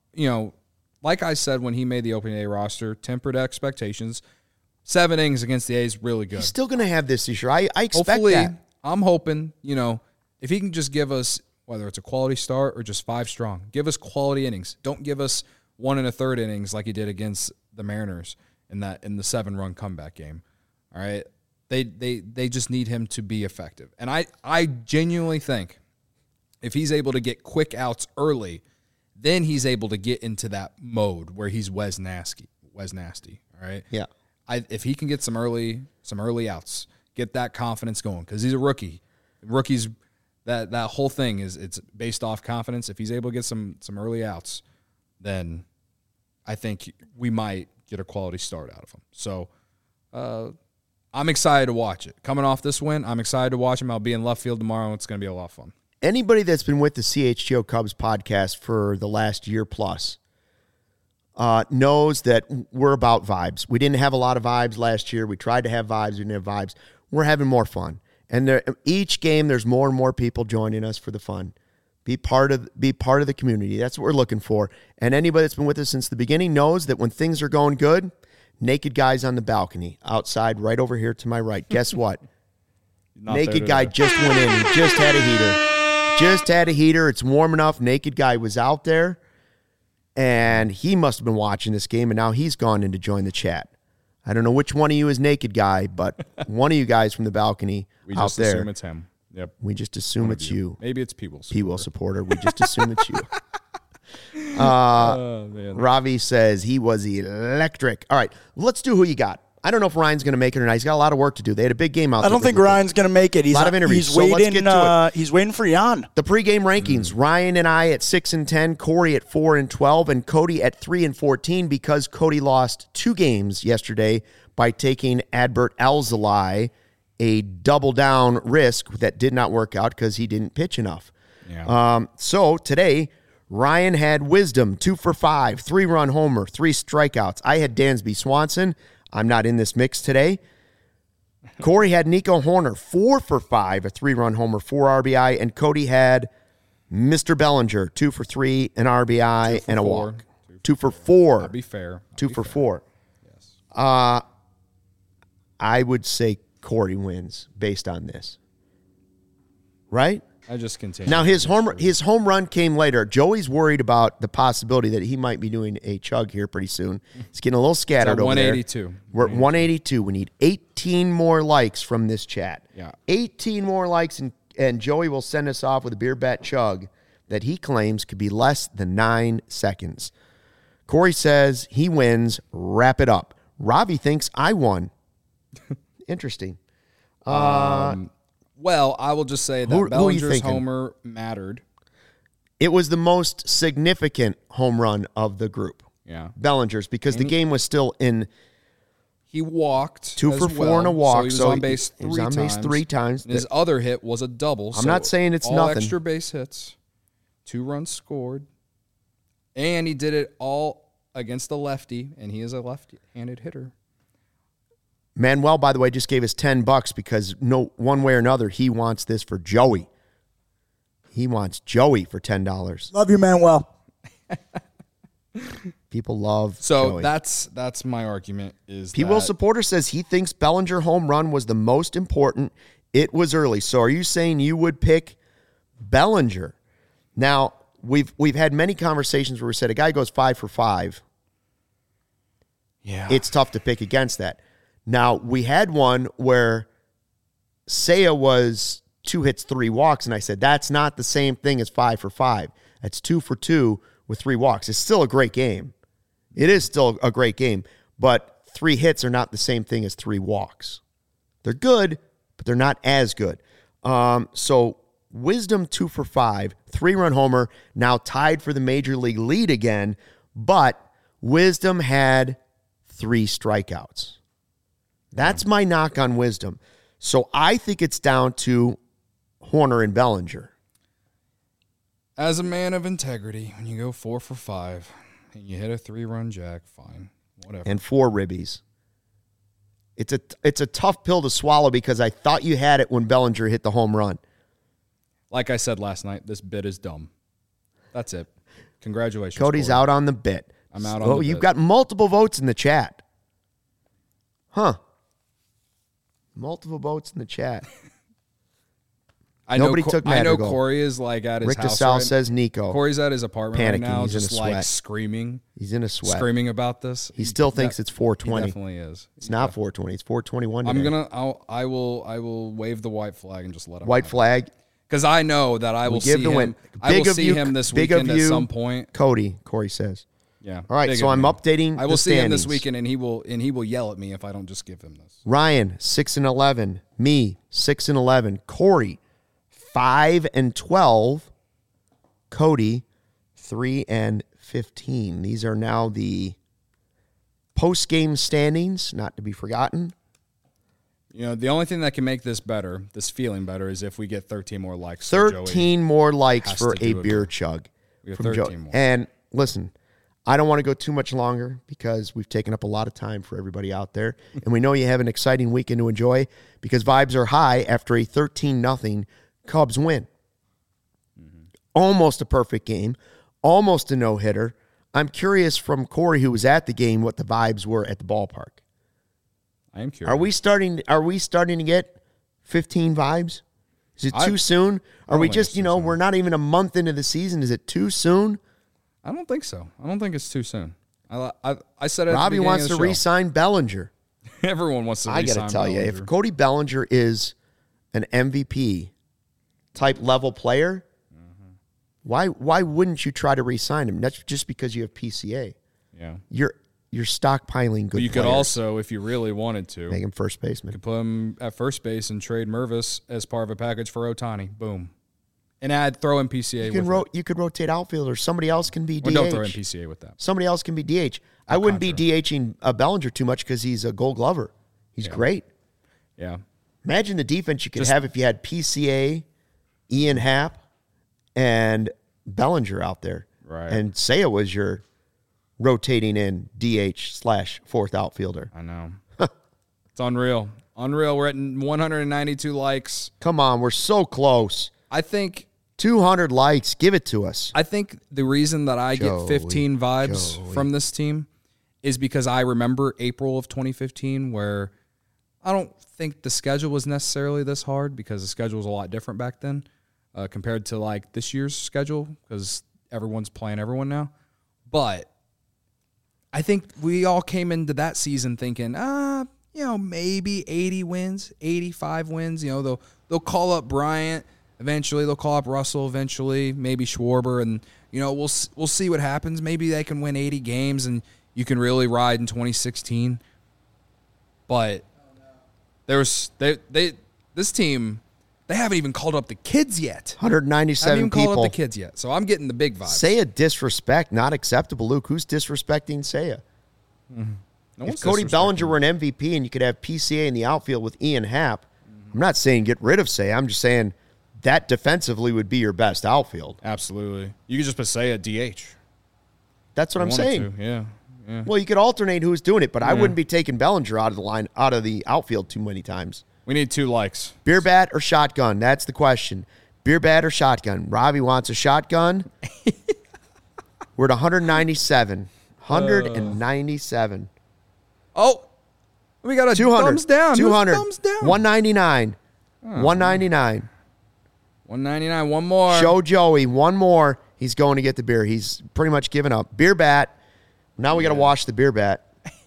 Speaker 2: Like I said when he made the opening day roster, tempered expectations. 7 innings against the A's, really good.
Speaker 1: He's still going to have this year. I expect
Speaker 2: Hopefully,
Speaker 1: that.
Speaker 2: I'm hoping, if he can just give us, whether it's a quality start or just 5 strong, give us quality innings. Don't give us 1 1/3 innings like he did against the Mariners in the 7-run comeback game. All right, they just need him to be effective, and I genuinely think if he's able to get quick outs early, then he's able to get into that mode where he's Wes Nasty. All right,
Speaker 1: yeah.
Speaker 2: If he can get some early outs, get that confidence going, because he's a rookie. Rookies, that whole thing it's based off confidence. If he's able to get some early outs, then I think we might get a quality start out of him. So I'm excited to watch it. Coming off this win, I'm excited to watch him. I'll be in left field tomorrow. It's going to be a lot of fun.
Speaker 1: Anybody that's been with the CHGO Cubs podcast for the last year plus knows that we're about vibes. We didn't have a lot of vibes last year. We tried to have vibes. We didn't have vibes. We're having more fun. And each game, there's more and more people joining us for the fun. Be part of the community. That's what we're looking for. And anybody that's been with us since the beginning knows that when things are going good, naked guys on the balcony outside right over here to my right. Guess what? Naked guy just went in. He just had a heater. It's warm enough. Naked guy was out there. And he must have been watching this game, and now he's gone in to join the chat. I don't know which one of you is naked guy, but one of you guys from the balcony
Speaker 2: we
Speaker 1: out
Speaker 2: just
Speaker 1: there.
Speaker 2: assume it's him. Yep.
Speaker 1: We just assume it's you.
Speaker 2: Maybe it's P-Will
Speaker 1: supporter. We just assume it's you. Ravi says he was electric. All right, let's do who you got. I don't know if Ryan's going to make it or not. He's got a lot of work to do. They had a big game out there.
Speaker 3: I don't think Ryan's going to make it. He's
Speaker 1: a lot of interviews.
Speaker 3: He's waiting. Let's get to it. He's waiting for Jan.
Speaker 1: The pregame rankings: Ryan and I at 6-10, Corey at 4-12, and Cody at 3-14 because Cody lost 2 games yesterday by taking Adbert Alzolay, a double down risk that did not work out because he didn't pitch enough.
Speaker 2: Yeah.
Speaker 1: So today, Ryan had Wisdom, 2 for 5, 3-run homer, 3 strikeouts. I had Dansby Swanson. I'm not in this mix today. Corey had Nico Horner, 4 for 5, a 3-run homer, 4 RBI, and Cody had Mr. Bellinger, 2 for 3, an RBI, and a walk. 2 for 4.
Speaker 2: I'll be fair.
Speaker 1: 2 for 4.
Speaker 2: Yes.
Speaker 1: I would say Corey wins based on this. Right?
Speaker 2: I just continue.
Speaker 1: Now, his home run came later. Joey's worried about the possibility that he might be doing a chug here pretty soon. He's getting a little scattered over
Speaker 2: 182.
Speaker 1: There. We're at 182. We need 18 more likes from this chat.
Speaker 2: Yeah.
Speaker 1: 18 more likes, and Joey will send us off with a beer bat chug that he claims could be less than 9 seconds. Corey says he wins. Wrap it up. Robbie thinks I won. Interesting.
Speaker 2: Well, I will just say that Bellinger's homer mattered.
Speaker 1: It was the most significant home run of the group.
Speaker 2: Yeah.
Speaker 1: Bellinger's, because the game was still in.
Speaker 2: He walked
Speaker 1: 2 for 4 and a walk.
Speaker 2: So he was on base 3 times.
Speaker 1: He was on base 3 times.
Speaker 2: And his other hit was a double.
Speaker 1: I'm not saying it's
Speaker 2: all
Speaker 1: nothing.
Speaker 2: Extra base hits, 2 runs scored, and he did it all against a lefty, and he is a left-handed hitter.
Speaker 1: Manuel, by the way, just gave us $10 because one way or another, he wants this for Joey. He wants Joey for $10.
Speaker 3: Love you, Manuel.
Speaker 1: People love
Speaker 2: Joey.
Speaker 1: So
Speaker 2: that's my argument. Is
Speaker 1: P-Will supporter says he thinks Bellinger home run was the most important. It was early. So are you saying you would pick Bellinger? Now, we've had many conversations where we said a guy goes 5 for 5.
Speaker 2: Yeah.
Speaker 1: It's tough to pick against that. Now, we had one where Seiya was 2 hits, 3 walks, and I said, that's not the same thing as 5 for 5. That's 2 for 2 with 3 walks. It's still a great game. It is still a great game, but 3 hits are not the same thing as 3 walks. They're good, but they're not as good. So Wisdom 2 for 5, 3-run homer, now tied for the major league lead again, but Wisdom had 3 strikeouts. That's my knock on Wisdom. So I think it's down to Hoerner and Bellinger.
Speaker 2: As a man of integrity, when you go 4 for 5 and you hit a 3-run jack, fine, whatever.
Speaker 1: And 4 ribbies. It's a tough pill to swallow because I thought you had it when Bellinger hit the home run.
Speaker 2: Like I said last night, this bit is dumb. That's it. Congratulations,
Speaker 1: Cody's
Speaker 2: Corey.
Speaker 1: out on the bit.
Speaker 2: I'm out on the bit.
Speaker 1: You've got multiple votes in the chat. Multiple votes in the chat. Nobody took Madrigal.
Speaker 2: I know Corey is like at his
Speaker 1: Rick
Speaker 2: house.
Speaker 1: DeSalle says Nico.
Speaker 2: Corey's at his apartment
Speaker 1: panicking.
Speaker 2: right now,
Speaker 1: He's
Speaker 2: just
Speaker 1: in a
Speaker 2: like
Speaker 1: sweat.
Speaker 2: screaming.
Speaker 1: He's in a sweat.
Speaker 2: Screaming about this.
Speaker 1: He still thinks it's 420.
Speaker 2: He definitely is.
Speaker 1: It's not 420. It's 421 today.
Speaker 2: I will wave the white flag and just let him.
Speaker 1: White flag.
Speaker 2: Because I know that I will see him. I will see him this weekend at some point.
Speaker 1: Corey says.
Speaker 2: Yeah.
Speaker 1: All right, so I'm updating.
Speaker 2: I will see him this weekend, and he will yell at me if I don't just give him this.
Speaker 1: Ryan 6-11, me 6-11, Corey 5-12, Cody 3-15. These are now the post-game standings, not to be forgotten.
Speaker 2: You know, the only thing that can make this better, this feeling better, is if we get 13 more likes.
Speaker 1: 13 more likes for a beer chug.
Speaker 2: We have 13 more.
Speaker 1: And listen, I don't want to go too much longer because we've taken up a lot of time for everybody out there. And we know you have an exciting weekend to enjoy because vibes are high after a 13-0 Cubs win. Mm-hmm. Almost a perfect game. Almost a no-hitter. I'm curious from Corey, who was at the game, what the vibes were at the ballpark.
Speaker 2: I am curious.
Speaker 1: Are we starting to get 15 vibes? Is it too soon? Are we just, we're not even a month into the season. Is it too soon?
Speaker 2: I don't think so. I don't think it's too soon. I said it.
Speaker 1: Robbie wants to re-sign Bellinger.
Speaker 2: Everyone wants to re-sign Bellinger. I got to tell you,
Speaker 1: if Cody Bellinger is an MVP type level player, why wouldn't you try to re-sign him? That's just because you have PCA.
Speaker 2: Yeah.
Speaker 1: You're stockpiling good players.
Speaker 2: You could also, if you really wanted to,
Speaker 1: make him first baseman.
Speaker 2: You could put him at first base and trade Mervis as part of a package for Ohtani. Boom. And throw in PCA
Speaker 1: You could rotate outfielders. Somebody else can be DH.
Speaker 2: Well, don't throw in PCA with that.
Speaker 1: Somebody else can be DH. I wouldn't be DHing Bellinger too much because he's a Gold Glover. He's great.
Speaker 2: Yeah.
Speaker 1: Imagine the defense you could have if you had PCA, Ian Happ, and Bellinger out there.
Speaker 2: Right.
Speaker 1: And Seiya was your rotating in DH/fourth outfielder.
Speaker 2: I know. It's unreal. Unreal. We're at 192 likes.
Speaker 1: Come on. We're so close.
Speaker 2: I think
Speaker 1: 200 likes. Give it to us.
Speaker 2: I think the reason that I get 15 vibes from this team is because I remember April of 2015 where I don't think the schedule was necessarily this hard because the schedule was a lot different back then compared to like this year's schedule because everyone's playing everyone now. But I think we all came into that season thinking, maybe 80 wins, 85 wins. They'll call up Bryant. Eventually, they'll call up Russell. Eventually, maybe Schwarber, and we'll see what happens. Maybe they can win 80 games, and you can really ride in 2016. But this team, they haven't even called up the kids yet.
Speaker 1: 197
Speaker 2: haven't even
Speaker 1: people.
Speaker 2: called up the kids yet, so I'm getting the big vibes.
Speaker 1: Seiya disrespect, not acceptable. Luke, who's disrespecting Seiya?
Speaker 2: Mm-hmm. No
Speaker 1: if Cody Bellinger were an MVP and you could have PCA in the outfield with Ian Happ, I'm not saying get rid of Seiya. I'm just saying that defensively would be your best outfield.
Speaker 2: Absolutely. You could just put Seiya DH.
Speaker 1: That's what I'm saying.
Speaker 2: Yeah.
Speaker 1: Well, you could alternate who's doing it, but I wouldn't be taking Bellinger out of the outfield too many times.
Speaker 2: We need 2 likes.
Speaker 1: Beer bat or shotgun? That's the question. Beer bat or shotgun? Robbie wants a shotgun. We're at 197. 197.
Speaker 2: Oh, we got a
Speaker 1: 200.
Speaker 2: thumbs down.
Speaker 1: 200.
Speaker 2: Thumbs down.
Speaker 1: 199. 199.
Speaker 2: 199. One more.
Speaker 1: Show Joey. One more. He's going to get the beer. He's pretty much given up. Beer bat. Now we got to wash the beer bat.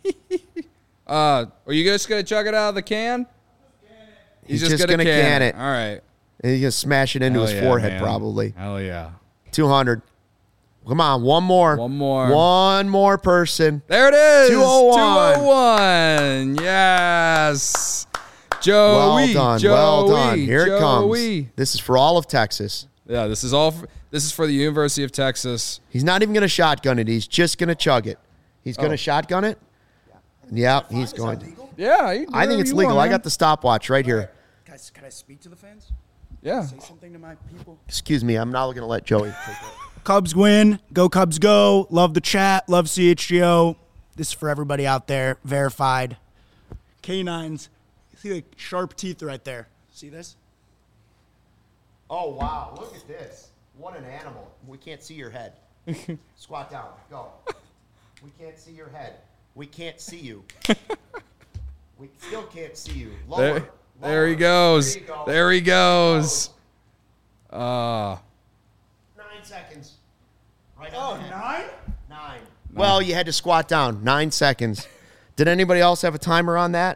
Speaker 2: Are you just going to chug it out of the can?
Speaker 1: He's just going to can it.
Speaker 2: All right.
Speaker 1: And he's going to smash it into his forehead, probably.
Speaker 2: Hell yeah.
Speaker 1: 200. Come on, one more. One more person.
Speaker 2: There it is.
Speaker 1: 201.
Speaker 2: 201. Yes. Joey.
Speaker 1: Well done.
Speaker 2: Joey,
Speaker 1: well done. Here
Speaker 2: Joey.
Speaker 1: it comes. This is for all of Texas.
Speaker 2: Yeah, this is for the University of Texas.
Speaker 1: He's not even going to shotgun it. He's just going to chug it. He's going to shotgun it? Yeah, he's going to.
Speaker 2: Yeah.
Speaker 1: I think it's legal. I got the stopwatch right here.
Speaker 3: Can I speak to the fans?
Speaker 2: Yeah.
Speaker 3: Say something to my people.
Speaker 1: Excuse me. I'm not going to let Joey take it.
Speaker 4: Cubs win. Go Cubs go. Love the chat. Love CHGO. This is for everybody out there. Verified. Canines. You see like sharp teeth right there. See this?
Speaker 1: Oh, wow. Look at this. What an animal. We can't see your head. Squat down. Go. We can't see your head. We can't see you. We still can't see you. Lower.
Speaker 2: There he goes. There he goes.
Speaker 1: 9 seconds. Right on the head. 9? Well, you had to squat down. 9 seconds. Did anybody else have a timer on that?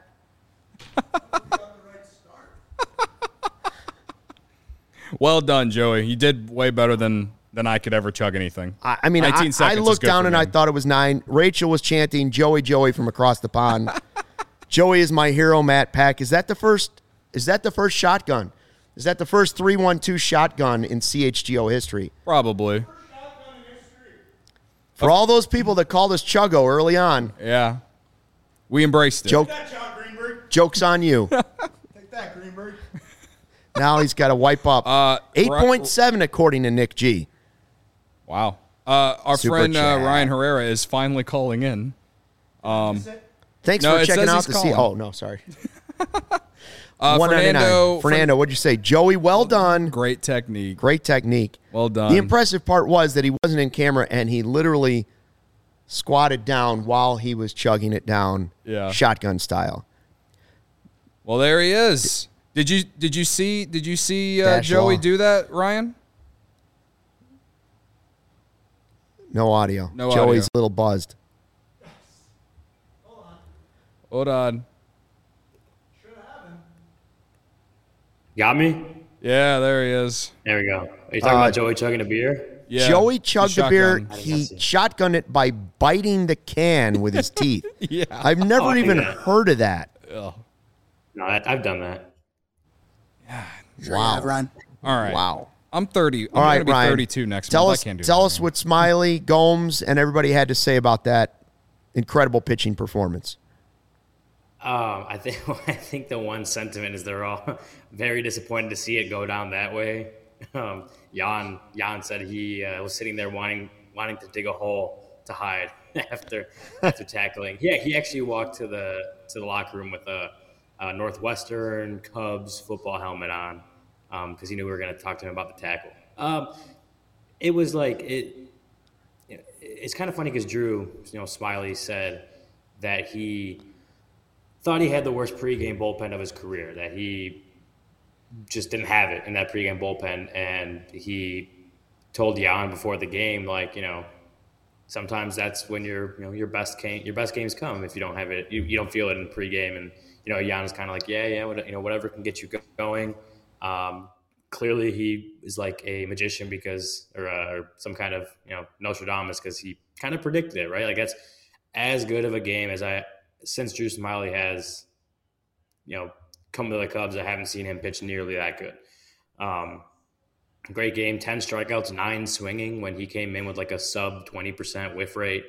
Speaker 2: Well done, Joey. You did way better than I could ever chug anything.
Speaker 1: I mean,
Speaker 2: 19
Speaker 1: I
Speaker 2: seconds
Speaker 1: looked down and
Speaker 2: me.
Speaker 1: I thought it was 9. Rachel was chanting, Joey, Joey from across the pond. Joey is my hero, Matt Pack. Is that the first shotgun? Is that the first 3-1-2 shotgun in CHGO history?
Speaker 2: Probably.
Speaker 1: For all those people that called us Chuggo early on.
Speaker 2: Yeah. We embraced it.
Speaker 4: Take that, John Greenberg.
Speaker 1: Joke's on you.
Speaker 4: Take that, Greenberg.
Speaker 1: Now he's got to wipe up. 8.7 according to Nick G.
Speaker 2: Wow. Our
Speaker 1: Super
Speaker 2: friend
Speaker 1: chat.
Speaker 2: Ryan Herrera is finally calling in.
Speaker 1: Thanks for checking out the scene. Oh, no, sorry. Fernando, what'd you say? Joey, well done.
Speaker 2: Great technique.
Speaker 1: Great technique.
Speaker 2: Well done.
Speaker 1: The impressive part was that he wasn't in camera and he literally squatted down while he was chugging it down, shotgun style.
Speaker 2: Well, there he is. Did you see Joey
Speaker 1: law.
Speaker 2: do that, Ryan?
Speaker 1: No audio.
Speaker 2: No
Speaker 1: Joey's
Speaker 2: audio.
Speaker 1: a little buzzed.
Speaker 2: Hold on.
Speaker 5: Got me?
Speaker 2: Yeah, there he is.
Speaker 5: There we go. Are you talking about Joey chugging a beer?
Speaker 2: Yeah.
Speaker 1: Joey chugged the beer.
Speaker 5: shotgun.
Speaker 1: He shotgunned it by biting the can with his teeth.
Speaker 2: Yeah.
Speaker 1: I've never even heard of that.
Speaker 2: Ugh.
Speaker 5: No, I've done that.
Speaker 1: Wow.
Speaker 3: Ryan.
Speaker 2: All right.
Speaker 1: Wow.
Speaker 2: I'm 30.
Speaker 1: All right,
Speaker 2: going to be
Speaker 1: Ryan.
Speaker 2: 32 next
Speaker 1: Tell
Speaker 2: month.
Speaker 1: us,
Speaker 2: I can't do
Speaker 1: tell
Speaker 2: that
Speaker 1: us
Speaker 2: anymore.
Speaker 1: what Smiley, Gomes, and everybody had to say about that incredible pitching performance.
Speaker 5: I think the one sentiment is they're all very disappointed to see it go down that way. Jan said he was sitting there wanting to dig a hole to hide after tackling. Yeah, he actually walked to the locker room with a Northwestern Cubs football helmet on because he knew we were going to talk to him about the tackle. It was like it's kind of funny because Drew, Smiley said that he thought he had the worst pregame bullpen of his career, that he just didn't have it in that pregame bullpen. And he told Jan before the game, sometimes that's when your best games come. If you don't have it, you don't feel it in pregame. And, Jan is kind of like, whatever can get you going. Clearly he is like a magician or some kind of, Nostradamus, because he kind of predicted it, right? Like that's as good of a game as since Drew Smiley has, come to the Cubs, I haven't seen him pitch nearly that good. Great game, 10 strikeouts, 9 swinging when he came in with like a sub 20% whiff rate.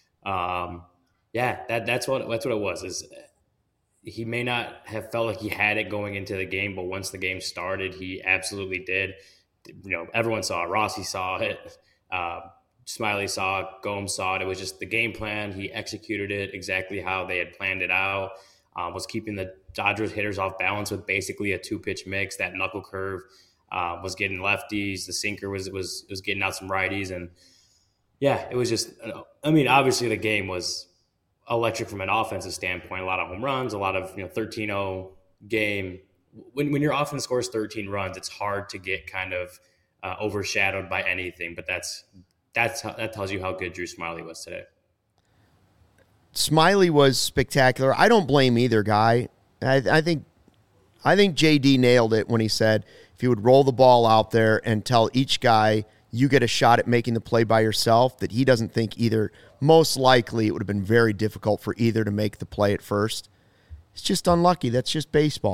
Speaker 5: That's what it was. Is he may not have felt like he had it going into the game, but once the game started, he absolutely did. Everyone saw it. Rossi saw it. Smiley saw it. Gomes saw it. It was just the game plan. He executed it exactly how they had planned it out. Was keeping the Dodgers hitters off balance with basically a 2-pitch mix. That knuckle curve was getting lefties. The sinker was getting out some righties. And yeah, it was just, obviously the game was electric from an offensive standpoint. A lot of home runs, a lot of 13-0 game. When your offense scores 13 runs, it's hard to get kind of overshadowed by anything. But that tells you how good Drew Smiley was today.
Speaker 1: Smiley was spectacular. I don't blame either guy. I think JD nailed it when he said if he would roll the ball out there and tell each guy you get a shot at making the play by yourself, that he doesn't think either. Most likely it would have been very difficult for either to make the play at first. It's just unlucky. That's just baseball.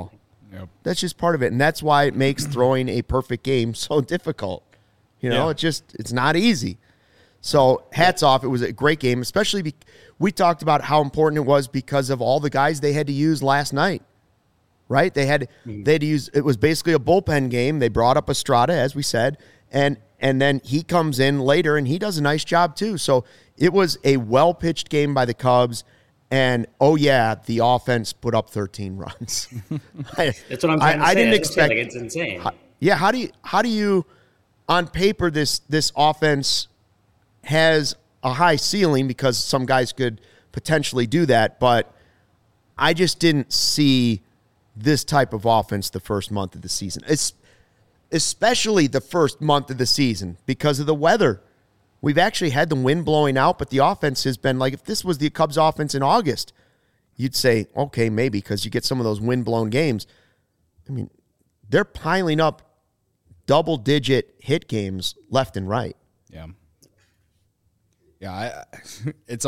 Speaker 2: Yep.
Speaker 1: That's just part of it. And that's why it makes throwing a perfect game so difficult. It's not easy. So hats off. It was a great game, especially we talked about how important it was because of all the guys they had to use last night, right? They had to use, it was basically a bullpen game. They brought up Estrada, as we said, and then he comes in later and he does a nice job too. So it was a well-pitched game by the Cubs. And, the offense put up 13 runs.
Speaker 5: That's what I'm trying to say.
Speaker 1: I didn't expect.
Speaker 5: It's insane.
Speaker 1: How do you, on paper, this offense has a high ceiling because some guys could potentially do that, but I just didn't see this type of offense the first month of the season, especially the first month of the season because of the weather. We've actually had the wind blowing out, but the offense has been like, if this was the Cubs offense in August, you'd say, okay, maybe, because you get some of those wind-blown games. I mean, they're piling up double-digit hit games left and right.
Speaker 2: Yeah. Yeah, it's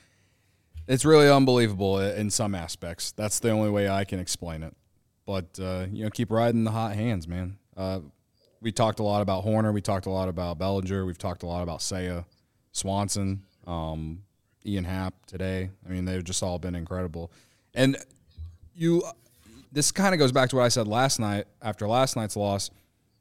Speaker 2: really unbelievable in some aspects. That's the only way I can explain it. But, keep riding the hot hands, man. We talked a lot about Horner. We talked a lot about Bellinger. We've talked a lot about Seiya, Swanson, Ian Happ today. I mean, they've just all been incredible. And this kind of goes back to what I said last night after last night's loss.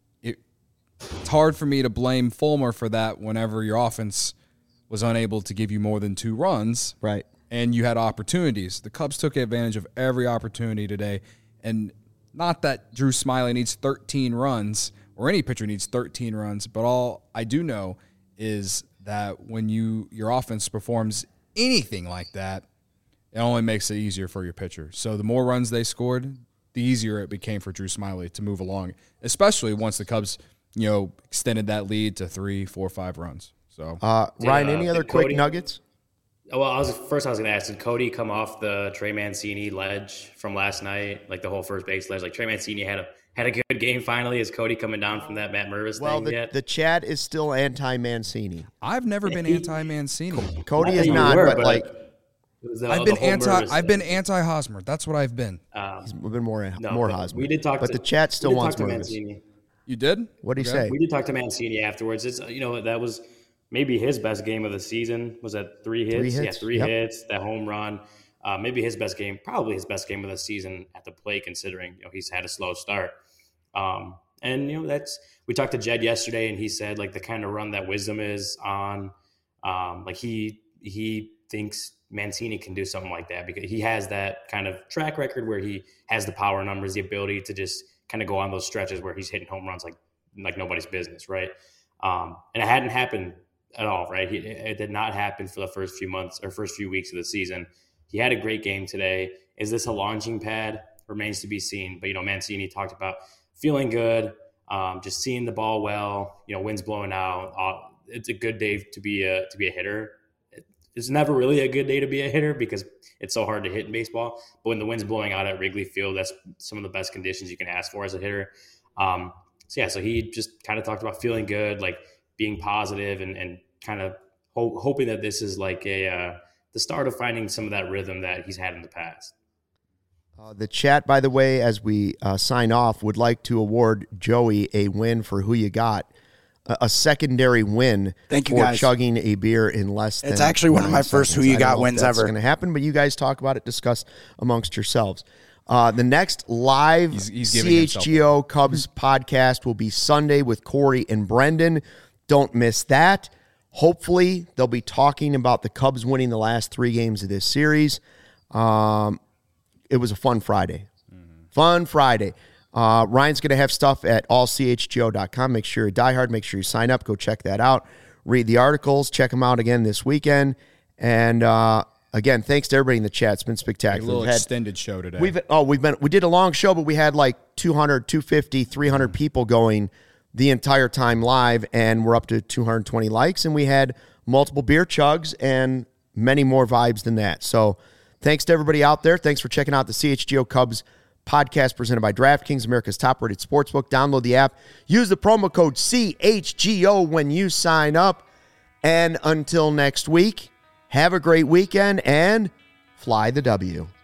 Speaker 2: It's hard for me to blame Fulmer for that whenever your offense was unable to give you more than 2 runs.
Speaker 1: Right.
Speaker 2: And you had opportunities. The Cubs took advantage of every opportunity today. And not that Drew Smyly needs 13 runs or any pitcher needs 13 runs, but all I do know is that when your offense performs anything like that, it only makes it easier for your pitcher. So the more runs they scored, the easier it became for Drew Smyly to move along, especially once the Cubs, extended that lead to 3, 4, 5 runs. So
Speaker 1: Ryan, any other quick nuggets?
Speaker 5: Well, I was going to ask, did Cody come off the Trey Mancini ledge from last night, like the whole first base ledge? Like Trey Mancini had a good game finally. Is Cody coming down from that Matt Mervis thing yet?
Speaker 1: The chat is still anti-Mancini.
Speaker 2: I've never been anti-Mancini.
Speaker 1: Cody is not, but
Speaker 2: I've been anti-Hosmer. That's what I've been.
Speaker 1: We've been more Hosmer.
Speaker 5: We did talk,
Speaker 1: but the chat still wants
Speaker 5: Mancini.
Speaker 2: You did?
Speaker 1: What did he say?
Speaker 5: We did talk to Mancini afterwards. It's that was maybe his best game of the season. Was that 3 hits? Yeah, 3 hits. That home run. Maybe his best game. Probably his best game of the season at the plate, considering he's had a slow start. And that's, we talked to Jed yesterday, and he said like the kind of run that Wisdom is on, like he thinks Mancini can do something like that because he has that kind of track record where he has the power numbers, the ability to just kind of go on those stretches where he's hitting home runs like nobody's business, right? And it hadn't happened at all, right? It did not happen for the first few months or first few weeks of the season. He had a great game today. Is this a launching pad? Remains to be seen. But Mancini talked about feeling good, just seeing the ball well. Wind's blowing out. It's a good day to be a hitter. It's never really a good day to be a hitter because it's so hard to hit in baseball. But when the wind's blowing out at Wrigley Field, that's some of the best conditions you can ask for as a hitter. So he just kind of talked about feeling good, like being positive and kind of hoping that this is like the start of finding some of that rhythm that he's had in the past.
Speaker 1: The chat, by the way, as we sign off, would like to award Joey a win for Who You Got. A secondary win.
Speaker 3: Thank you,
Speaker 1: for
Speaker 3: guys.
Speaker 1: Chugging a beer in less than
Speaker 3: It's actually one of my first Who You Got wins ever. It's
Speaker 1: going to happen, but you guys talk about it, discuss amongst yourselves. The next live CHGO Cubs podcast will be Sunday with Corey and Brendan. Don't miss that. Hopefully, they'll be talking about the Cubs winning the last 3 games of this series. It was a fun Friday. Fun Friday. Ryan's going to have stuff at allchgo.com. Make sure you're diehard. Make sure you sign up. Go check that out. Read the articles. Check them out again this weekend. And again, thanks to everybody in the chat. It's been spectacular.
Speaker 2: A little extended show today.
Speaker 1: We did a long show, but we had like 200, 250, 300 people going the entire time live, and we're up to 220 likes, and we had multiple beer chugs and many more vibes than that. So thanks to everybody out there. Thanks for checking out the CHGO Cubs podcast presented by DraftKings, America's top-rated sportsbook. Download the app. Use the promo code CHGO when you sign up. And until next week, have a great weekend and fly the W.